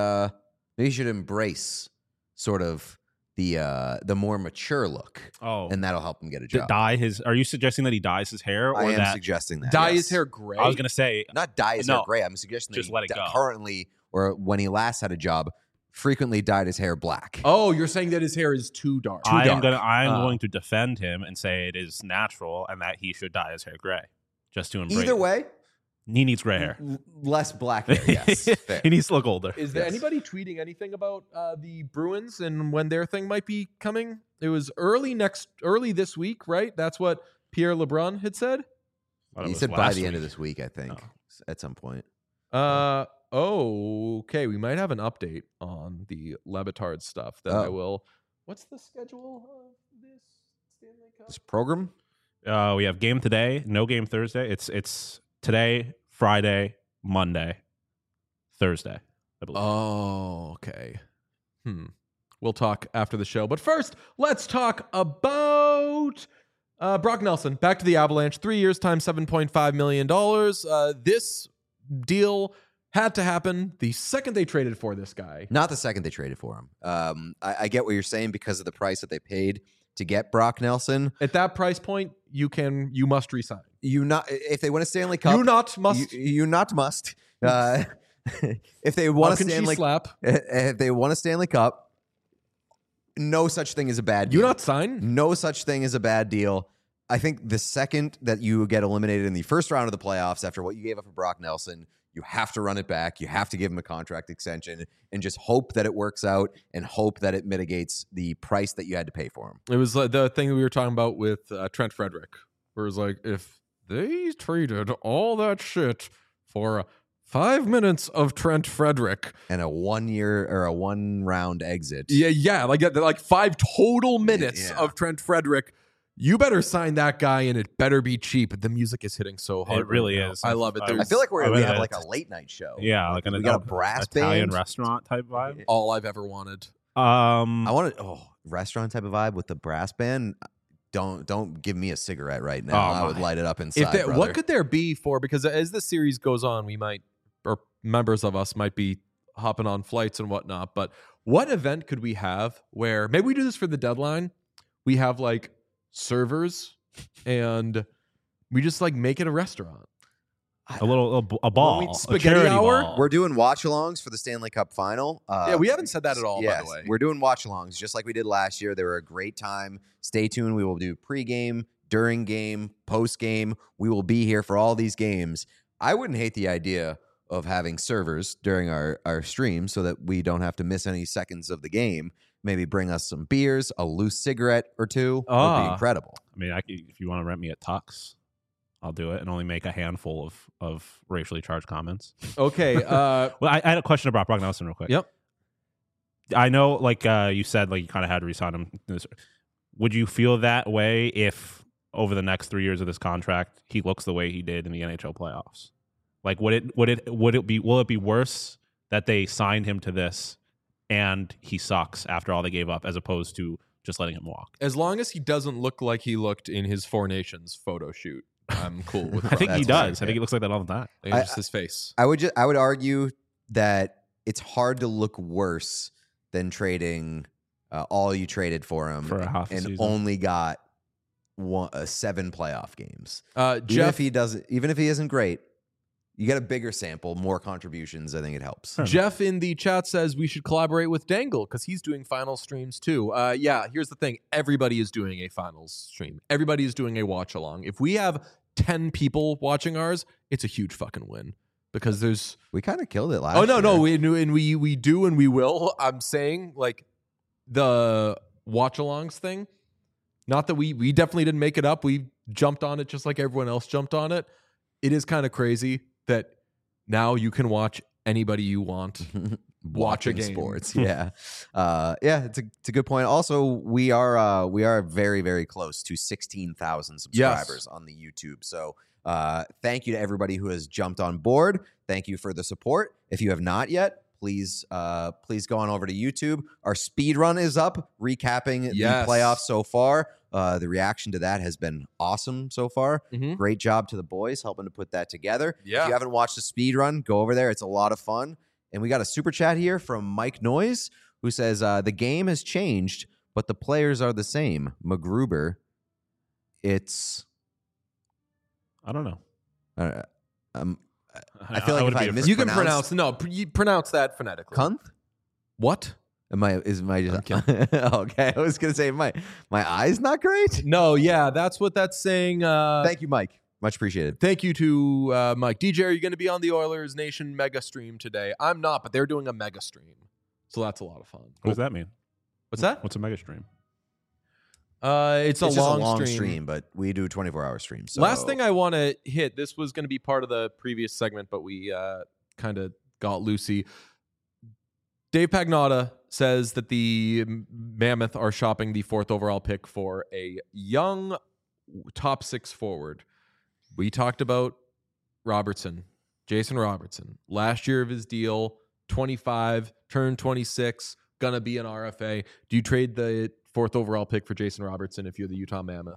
embrace sort of the more mature look. Oh, and that'll help him get a job. Are you suggesting that he dyes his hair? Or I am suggesting that. Dye his hair gray? I was going to say not dye his hair gray. I'm suggesting just that let it go. Currently, or when he last had a job, frequently dyed his hair black. Oh, you're saying that his hair is too dark. I am going to defend him and say it is natural and that he should dye his hair gray. Just to embrace. Either way, he needs gray hair. Less black hair, yes. Fair. He needs to look older. Is there anybody tweeting anything about the Bruins and when their thing might be coming? It was early this week, right? That's what Pierre LeBrun had said. He said by the end of this week, I think, at some point. Okay. We might have an update on the Le Batard stuff that I will. What's the schedule of this Stanley Cup? This program? We have game today, no game Thursday. It's today, Friday, Monday, Thursday, I believe. Oh, okay. We'll talk after the show. But first, let's talk about Brock Nelson. Back to the Avalanche. 3 years times $7.5 million. This deal had to happen the second they traded for this guy. Not the second they traded for him. I get what you're saying because of the price that they paid. to get Brock Nelson. At that price point, you must resign. If they win a Stanley Cup, you not must. You not must. If they want a Stanley slap, if they want a Stanley Cup, no such thing as a bad deal. You not sign? No such thing as a bad deal. I think the second that you get eliminated in the first round of the playoffs after what you gave up for Brock Nelson, you have to run it back. You have to give him a contract extension and just hope that it works out and hope that it mitigates the price that you had to pay for him. It was like the thing that we were talking about with Trent Frederick, where it was like, if they traded all that shit for 5 minutes of Trent Frederick and a 1 year or a 1 round exit. Yeah. Like 5 total minutes of Trent Frederick. You better sign that guy and it better be cheap. The music is hitting so hard. It really is. I love it. I feel like we have like a late night show. Yeah, like we got a brass Italian band. restaurant type vibe. All I've ever wanted. I wanted restaurant type of vibe with the brass band. Don't give me a cigarette right now. I would light it up inside. What could there be for? Because as this series goes on, we might, or members of us might be hopping on flights and whatnot. But what event could we have where maybe we do this for the deadline? We have like servers and we just like make it a restaurant. A ball, spaghetti hour. Ball. We're doing watch-alongs for the Stanley Cup final. Yeah, we haven't said that at all. Yes, by the way, we're doing watch-alongs just like we did last year. They were a great time. Stay tuned. We will do pre-game, during game, post-game. We will be here for all these games. I wouldn't hate the idea of having servers during our stream so that we don't have to miss any seconds of the game. Maybe bring us some beers, a loose cigarette or two. Would be incredible. I mean, if you want to rent me at Tux, I'll do it and only make a handful of racially charged comments. Okay. Well, I had a question about Brock Nelson real quick. Yep. I know, like you said, like you kind of had to resign him. Would you feel that way if over the next 3 years of this contract he looks the way he did in the NHL playoffs? Like, will it be worse that they signed him to this and he sucks after all they gave up, as opposed to just letting him walk? As long as he doesn't look like he looked in his Four Nations photo shoot, I'm cool with. I think he does. I think he looks like that all the time. It's just his face. I would argue that it's hard to look worse than trading all you traded for him for a half a and season. only got 7 playoff games. Jeff, even if he isn't great, you get a bigger sample, more contributions. I think it helps. Jeff in the chat says we should collaborate with Dangle because he's doing final streams too. Yeah, here's the thing. Everybody is doing a finals stream. Everybody is doing a watch along. If we have 10 people watching ours, it's a huge fucking win because we kind of killed it last year. No, we do and we will. I'm saying like the watch alongs thing, not that we definitely didn't make it up. We jumped on it just like everyone else jumped on it. It is kind of crazy that now you can watch anybody you want watch a game. Sports. Yeah. It's a good point. Also, we are very, very close to 16,000 subscribers on the YouTube. So thank you to everybody who has jumped on board. Thank you for the support. If you have not yet, please go on over to YouTube. Our speed run is up, recapping the playoffs so far. The reaction to that has been awesome so far. Mm-hmm. Great job to the boys helping to put that together. Yeah. If you haven't watched the speed run, go over there. It's a lot of fun. And we got a super chat here from Mike Noyes, who says, the game has changed, but the players are the same. McGruber, I don't know. I feel like if I mispronounce... You can pronounce that phonetically. Kunth? What? Is my okay? I was gonna say my eye's not great. No, yeah, that's what that's saying. Thank you, Mike. Much appreciated. Thank you to Mike. DJ, are you going to be on the Oilers Nation mega stream today? I'm not, but they're doing a mega stream, so that's a lot of fun. What does that mean? What's that? What's a mega stream? It's a long stream, but we do 24-hour streams. So. Last thing I want to hit. This was going to be part of the previous segment, but we kind of got loosey. Dave Pagnotta says that the Mammoth are shopping the 4th overall pick for a young top 6 forward. We talked about Jason Robertson. Last year of his deal, 25, turned 26, gonna be an RFA. Do you trade the 4th overall pick for Jason Robertson if you're the Utah Mammoth?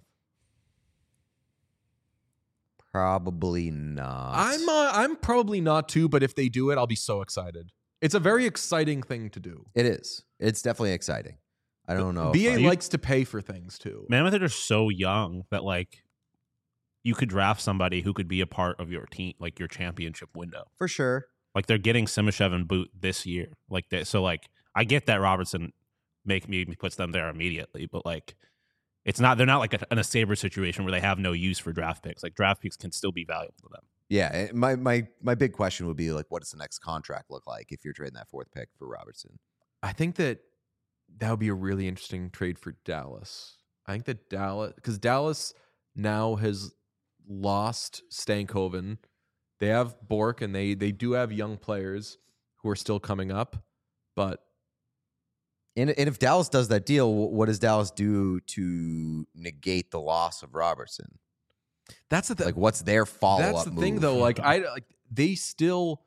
Probably not. I'm probably not too, but if they do it, I'll be so excited. It's a very exciting thing to do. It is. It's definitely exciting. I don't know. BA likes to pay for things too. Mammoth are just so young that like you could draft somebody who could be a part of your team, like your championship window. For sure. Like they're getting Simashev and Boot this year. Like that. So like I get that Robertson puts them there immediately, but like it's not. They're not like in a Sabres situation where they have no use for draft picks. Like draft picks can still be valuable to them. Yeah, my big question would be like, what does the next contract look like if you're trading that 4th pick for Robertson? I think that would be a really interesting trade for Dallas. I think that because Dallas now has lost Stankoven. They have Bork, and they do have young players who are still coming up. But and if Dallas does that deal, what does Dallas do to negate the loss of Robertson? That's the thing. Like, what's their follow up? That's the thing, though. Like, they still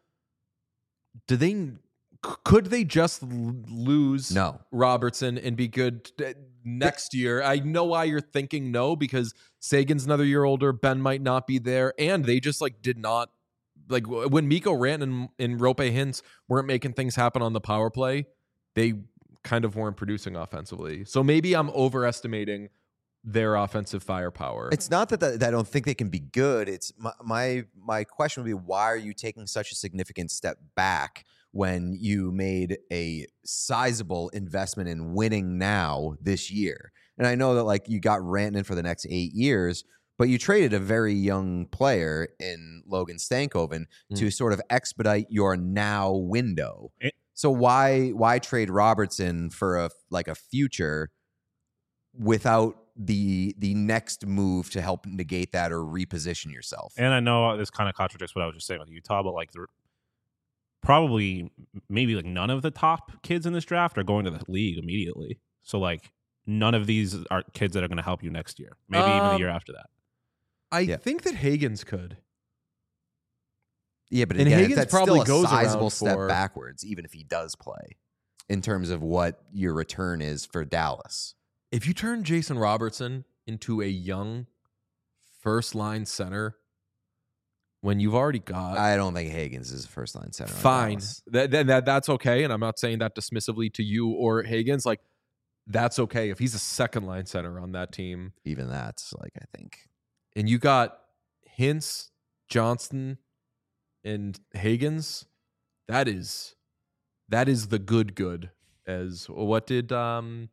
could they just lose Robertson and be good next year? I know why you're thinking no, because Sagan's another year older. Ben might not be there, and they just did not when Mikko Rantanen and Roope Hintz weren't making things happen on the power play. They kind of weren't producing offensively. So maybe I'm overestimating their offensive firepower. It's not that I don't think they can be good. It's my question would be, why are you taking such a significant step back when you made a sizable investment in winning now this year? And I know that you got Rantanen for the next 8 years, but you traded a very young player in Logan Stankoven to sort of expedite your now window. So why trade Robertson for a future without the next move to help negate that or reposition yourself? And I know this kind of contradicts what I was just saying with Utah, but probably maybe none of the top kids in this draft are going to the league immediately. So none of these are kids that are going to help you next year. Maybe even the year after that. I think that Hagens could. Yeah, but and again, Hagens that's probably still a goes sizable step backwards, even if he does play, in terms of what your return is for Dallas. If you turn Jason Robertson into a young first-line center, when you've already got... I don't think Hagens is a first-line center. Fine. That's okay, and I'm not saying that dismissively to you or Hagens. That's okay if he's a second-line center on that team. Even that's, I think... And you got Hintz, Johnston, and Hagens. That is the good. As what did Aaron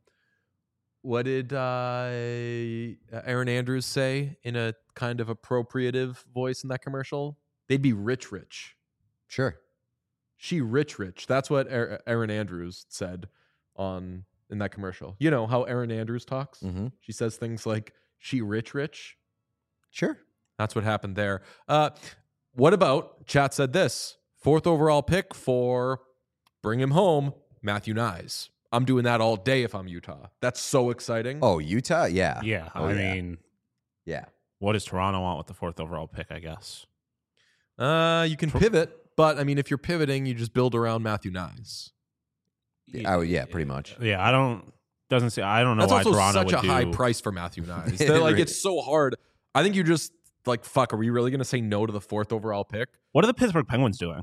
Andrews say in a kind of appropriative voice in that commercial? They'd be rich. Sure. She rich. That's what Aaron Andrews said in that commercial. You know how Aaron Andrews talks? Mm-hmm. She says things like, she rich. Sure. That's what happened there. What about, chat said this, 4th overall pick for bring him home, Matthew Knies. I'm doing that all day if I'm Utah. That's so exciting. Oh, Utah? Yeah. Yeah. I mean, what does Toronto want with the 4th overall pick, I guess? You can pivot, but I mean, if you're pivoting, you just build around Matthew Knies. Yeah, pretty much. Yeah, I don't know That's why also Toronto such would a do... high price for Matthew Knies. It's so hard. I think you just fuck, are we really going to say no to the 4th overall pick? What are the Pittsburgh Penguins doing?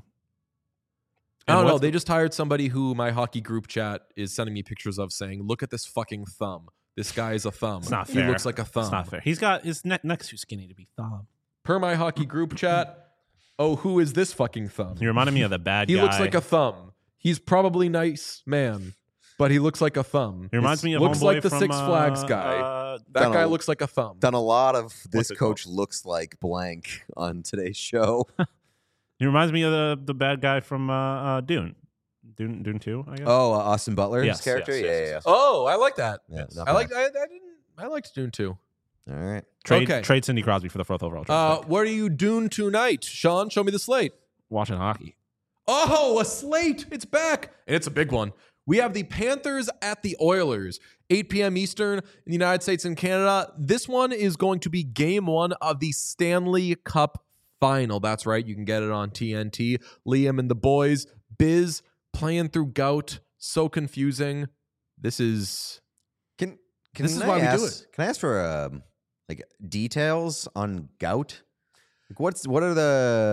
I don't know. They just hired somebody who my hockey group chat is sending me pictures of saying, look at this fucking thumb. This guy is a thumb. It's not fair. He looks like a thumb. It's not fair. He's got his neck's too skinny to be thumb. Per my hockey group chat, who is this fucking thumb? He reminded me of the bad guy. He looks like a thumb. He's probably nice man, but he looks like a thumb. He reminds me of looks homeboy like the from, Six Flags guy. That guy looks like a thumb. Done a lot of this coach looks like blank on today's show. He reminds me of the bad guy from Dune. Dune 2, I guess. Oh, Austin Butler's character? Yes. Oh, I like that. Yeah, I liked Dune 2. All right. Trade Sidney Crosby for the 4th overall draft. What are you doing tonight? Sean, show me the slate. Watching hockey. Oh, a slate. It's back. And it's a big one. We have the Panthers at the Oilers, 8 p.m. Eastern in the United States and Canada. This one is going to be game 1 of the Stanley Cup final. That's right. You can get it on TNT. Liam and the boys. Biz playing through gout. So confusing. This is... This is why we do it. Can I ask for details on gout? What are the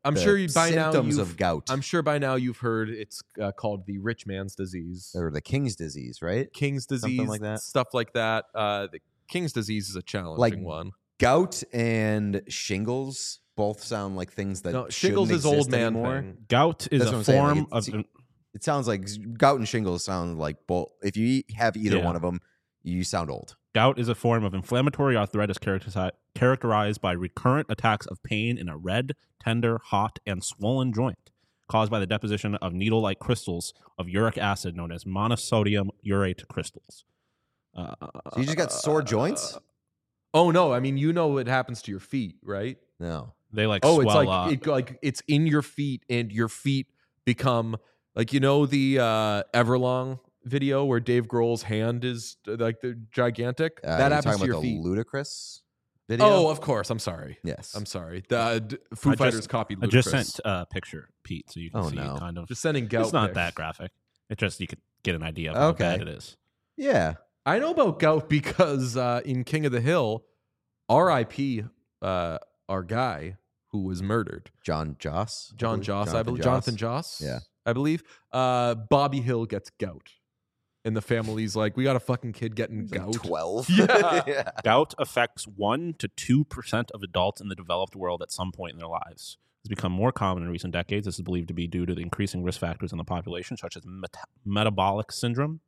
I'm sure by now symptoms of gout. I'm sure by now you've heard it's called the rich man's disease or the king's disease, right? King's disease, something like that. Stuff like that. The King's disease is a challenging one. Gout and shingles both sound like things that shingles is old man anymore. thing. Gout is a form of. It sounds like gout and shingles sound like both. If you have either one of them, you sound old. Gout is a form of inflammatory arthritis characterized by recurrent attacks of pain in a red, tender, hot, and swollen joint, caused by the deposition of needle-like crystals of uric acid known as monosodium urate crystals. So you just got sore joints? Oh no! I mean, what happens to your feet, right? No, they swell it's up. Like it's in your feet, and your feet become like the Everlong video where Dave Grohl's hand is like the gigantic. That happens to your feet. The Ludacris video. Oh, of course. I'm sorry. Yes, I'm sorry. The Foo Fighters copied Ludacris. I just sent a picture, Pete, so you can see kind of. Just sending gout. It's not that graphic. It just you could get an idea of how bad it is. Yeah. I know about gout because in King of the Hill, R.I.P. Our guy who was murdered, John Joss, I believe, Jonathan Joss, I believe. Bobby Hill gets gout, and the family's like, "We got a fucking kid getting gout." 12. Yeah. Gout affects 1 to 2% of adults in the developed world at some point in their lives. It's become more common in recent decades. This is believed to be due to the increasing risk factors in the population, such as metabolic syndrome.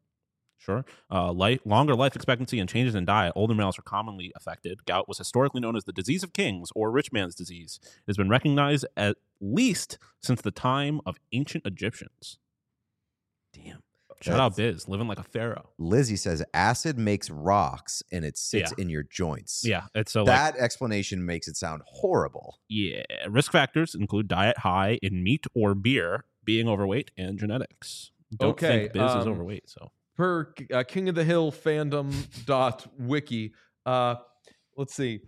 Longer life expectancy and changes in diet. Older males are commonly affected. Gout was historically known as the disease of kings or rich man's disease. It has been recognized at least since the time of ancient Egyptians. Damn. Shout out Biz, living like a pharaoh. Lizzie says acid makes rocks and it sits in your joints. Yeah, it's that explanation makes it sound horrible. Yeah, risk factors include diet high in meat or beer, being overweight, and genetics. Don't think Biz is overweight, so. Per King of the Hill fandom.wiki, let's see.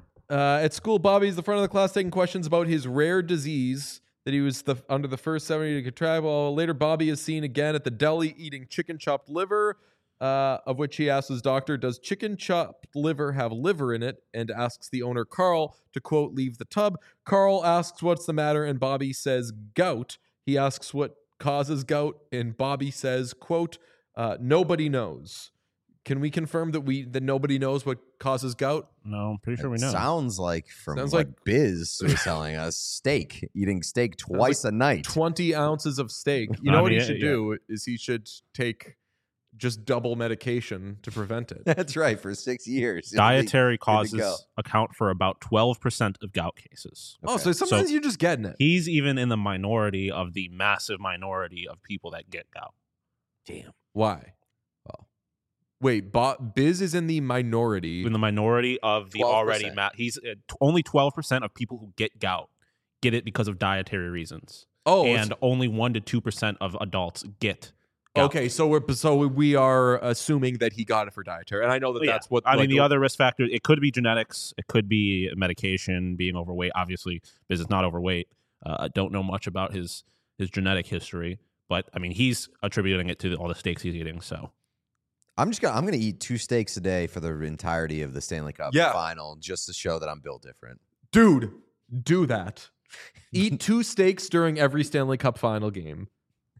At school, Bobby's the front of the class taking questions about his rare disease that he was under the first 70 to contract. Later, Bobby is seen again at the deli eating chicken chopped liver, of which he asks his doctor, does chicken chopped liver have liver in it? And asks the owner, Carl, to, quote, leave the tub. Carl asks what's the matter, and Bobby says gout. He asks what causes gout, and Bobby says, quote, nobody knows. Can we confirm that nobody knows what causes gout? No, I'm pretty sure we know. Sounds like what Biz was telling us. Eating steak twice a night. 20 ounces of steak. You know what he should do is he should take just double medication to prevent it. That's right, for 6 years. Dietary causes account for about 12% of gout cases. Okay. Oh, so sometimes you're just getting it. He's even in the minority of the massive minority of people that get gout. Damn. Why? Well, wait, Biz is in the minority. In the minority of the 12%. Already he's only 12% of people who get gout get it because of dietary reasons. Oh, and only 1 to 2% of adults get gout. Okay, so we are assuming that he got it for dietary, and I know that's what. I mean, the other risk factors. It could be genetics. It could be medication, being overweight. Obviously, Biz is not overweight. I don't know much about his genetic history. But I mean, he's attributing it to all the steaks he's eating. So I'm gonna eat 2 steaks a day for the entirety of the Stanley Cup final, just to show that I'm built different. Dude, do that. Eat 2 steaks during every Stanley Cup final game.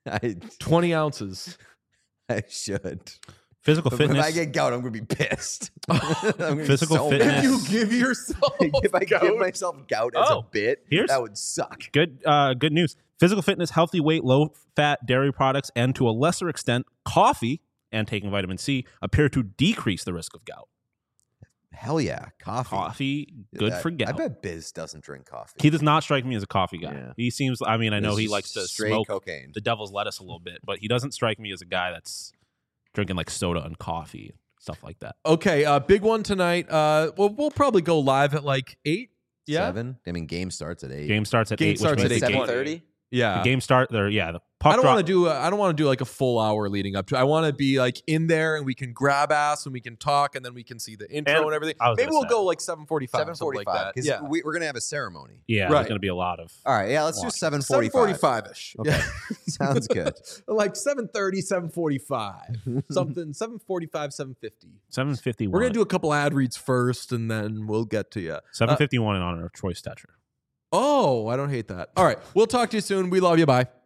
20 ounces. I should. Physical fitness. If I get gout, I'm gonna be pissed. Physical fitness. If you give yourself if I give myself gout as a bit, that would suck. Good news. Physical fitness, healthy weight, low-fat dairy products, and to a lesser extent, coffee and taking vitamin C appear to decrease the risk of gout. Hell yeah, coffee. Coffee, good for gout. I bet Biz doesn't drink coffee. He does not strike me as a coffee guy. Yeah. He seems, I know he likes to smoke cocaine. The devil's lettuce a little bit, but he doesn't strike me as a guy that's drinking like soda and coffee, stuff like that. Okay, big one tonight. We'll probably go live at like 8. Yeah? 7? I mean, game starts at 8. Game starts at 8. 7:30? Yeah. The game start there. Yeah. The puck I don't want to do like a full hour leading up to. I want to be like in there and we can grab ass and we can talk and then we can see the intro and everything. Maybe we'll go like 7:45. 7:45 like that. Because we're gonna have a ceremony. Yeah. There's gonna be a lot of. All right. Yeah. Let's do 7:45. 7:45ish. Okay. Yeah. Sounds good. Like 7:30, 7:45, something. 7:45, 7:50. 7:51. We're gonna do a couple ad reads first and then we'll get to you. 7:51 in honor of Troy Stetcher. Oh, I don't hate that. All right. We'll talk to you soon. We love you. Bye.